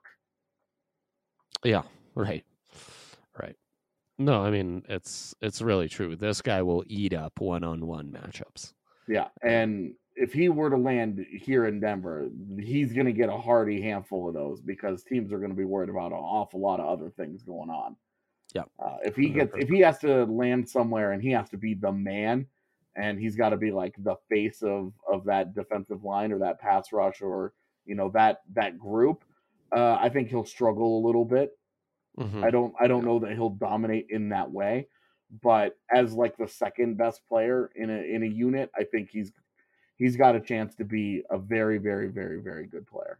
Yeah, right. Right. No, I mean, it's it's really true. This guy will eat up one-on-one matchups.
Yeah. And if he were to land here in Denver, he's going to get a hearty handful of those because teams are going to be worried about an awful lot of other things going on.
Yeah.
Uh, if he gets, if he has to land somewhere and he has to be the man, and he's got to be like the face of, of that defensive line or that pass rush or, you know, that, that group, uh, I think he'll struggle a little bit.
Mhm.
I don't, I don't know that he'll dominate in that way, but as like the second best player in a in a unit, I think he's he's got a chance to be a very, very, very, very good player.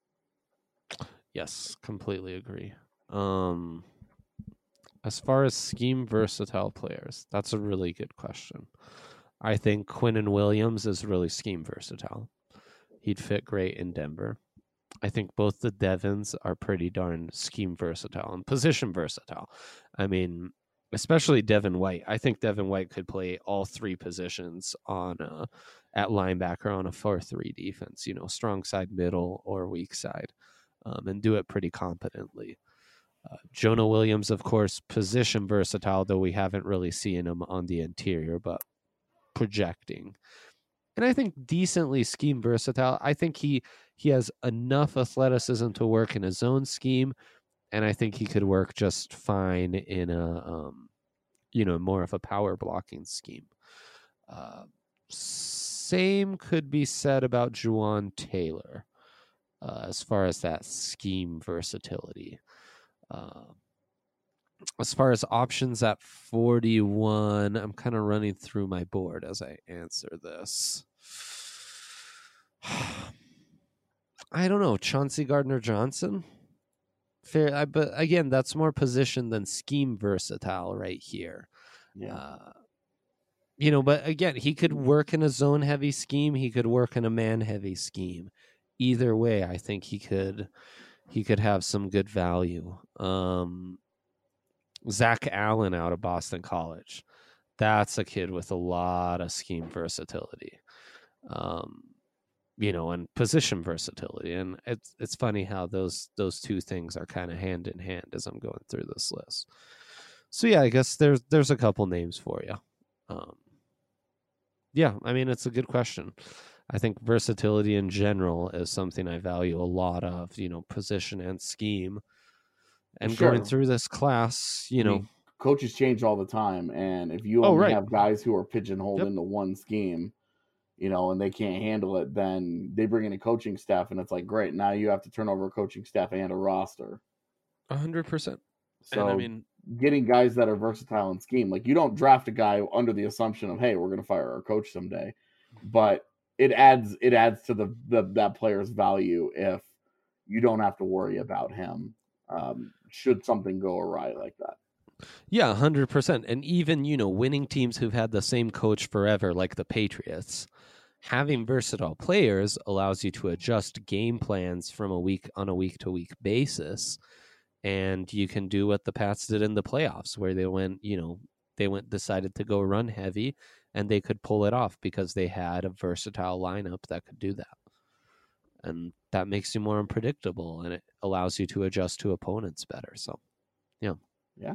Yes, completely agree. Um, as far as scheme versatile players, that's a really good question. I think Quinnen Williams is really scheme versatile. He'd fit great in Denver. I think both the Devons are pretty darn scheme versatile and position versatile. I mean, especially Devin White. I think Devin White could play all three positions on uh, at linebacker on a four three defense, you know, strong side, middle, or weak side, um, and do it pretty competently. Uh, Jonah Williams, of course, position versatile, though we haven't really seen him on the interior, but projecting. And I think decently scheme versatile. I think he he has enough athleticism to work in a zone scheme, and I think he could work just fine in a um, you know, more of a power blocking scheme. Uh, same could be said about Juwan Taylor uh, as far as that scheme versatility. Uh, as far as options at forty-one, I'm kind of running through my board as I answer this. I don't know. Chauncey Gardner-Johnson? Fair, I, but again, that's more position than scheme versatile right here.
Yeah.
Uh, you know, but again, he could work in a zone-heavy scheme. He could work in a man-heavy scheme. Either way, I think he could he could have some good value. Um, Zach Allen out of Boston College. That's a kid with a lot of scheme versatility. Um, you know, and position versatility. And it's it's funny how those those two things are kind of hand in hand as I'm going through this list. So yeah, I guess there's there's a couple names for you. Um, yeah, I mean, it's a good question. I think versatility in general is something I value a lot of, you know, position and scheme. And
Sure.
going through this class, you
I
know,
mean, coaches change all the time, and if you
Oh,
only
right.
have guys who are pigeonholed
Yep.
into one scheme, you know, and they can't handle it, then they bring in a coaching staff, and it's like, great, now you have to turn over a coaching staff and a roster.
a hundred percent.
So
And I mean,
getting guys that are versatile in scheme, like you don't draft a guy under the assumption of, hey, we're going to fire our coach someday, but it adds it adds to the, the that player's value if you don't have to worry about him um, should something go awry like that.
yeah, a hundred percent. And even, you know, winning teams who've had the same coach forever, like the Patriots, having versatile players allows you to adjust game plans from a week on a week to week basis. And you can do what the Pats did in the playoffs, where they went, you know, they went decided to go run heavy, and they could pull it off because they had a versatile lineup that could do that. And that makes you more unpredictable, and it allows you to adjust to opponents better. So, yeah.
Yeah.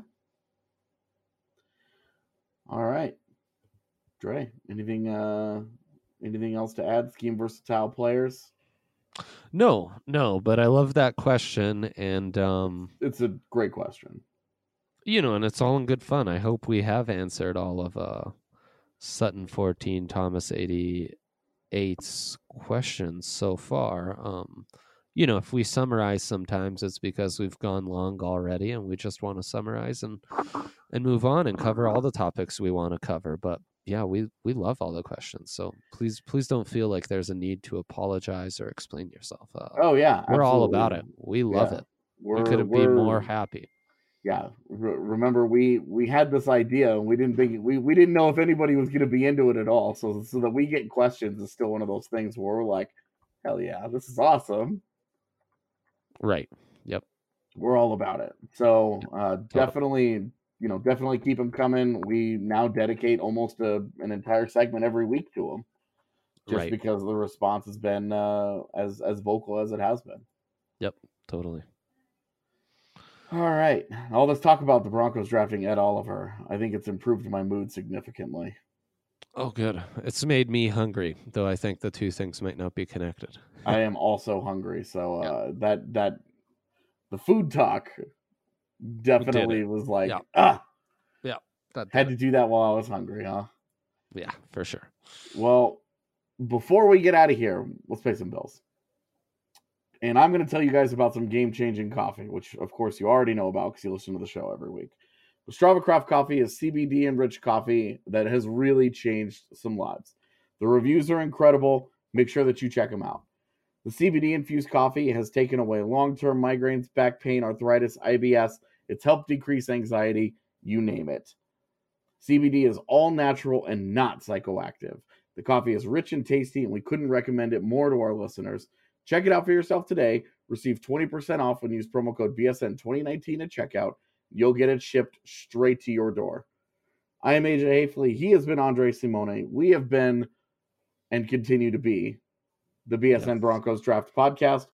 All right. Dre, anything uh anything else to add? Scheme versatile players?
No, no, but I love that question, and um,
It's a great question.
you know, and it's all in good fun. I hope we have answered all of uh, Sutton fourteen, Thomas eighty-eight's questions so far. Um, you know, if we summarize sometimes, it's because we've gone long already, and we just want to summarize and and move on and cover all the topics we want to cover. But yeah, we we love all the questions, so please please don't feel like there's a need to apologize or explain yourself. Uh,
Oh yeah,
we're all
absolutely.
about it. We love
Yeah.
it.
We're,
we couldn't be
we're-
more happy.
Yeah. Re- remember, we we had this idea, and we didn't think we, we didn't know if anybody was going to be into it at all. So so that we get questions is still one of those things where we're like, hell yeah, this is awesome.
Right. Yep.
We're all about it. So uh, definitely, you know, definitely keep them coming. We now dedicate almost a, an entire segment every week to them, just
Right.
because the response has been uh, as as vocal as it has been.
Yep. Totally.
All right, all this talk about the Broncos drafting Ed Oliver, I think it's improved my mood significantly.
Oh, good. It's made me hungry, though I think the two things might not be connected.
I am also hungry, so uh, that that the food talk definitely
it.
was like
Yeah.
ah,
Yeah. That
had to do that while I was hungry, huh?
Yeah, for sure.
Well, before we get out of here, let's pay some bills. And I'm going to tell you guys about some game-changing coffee, which, of course, you already know about because you listen to the show every week. Strava Craft Coffee is C B D-enriched coffee that has really changed some lives. The reviews are incredible. Make sure that you check them out. The C B D-infused coffee has taken away long-term migraines, back pain, arthritis, I B S. It's helped decrease anxiety, you name it. C B D is all natural and not psychoactive. The coffee is rich and tasty, and we couldn't recommend it more to our listeners. Check it out for yourself today. Receive twenty percent off when you use promo code B S N twenty nineteen at checkout. You'll get it shipped straight to your door. I am A J Hafley. He has been Andre Simone. We have been and continue to be the B S N yes. Broncos Draft Podcast.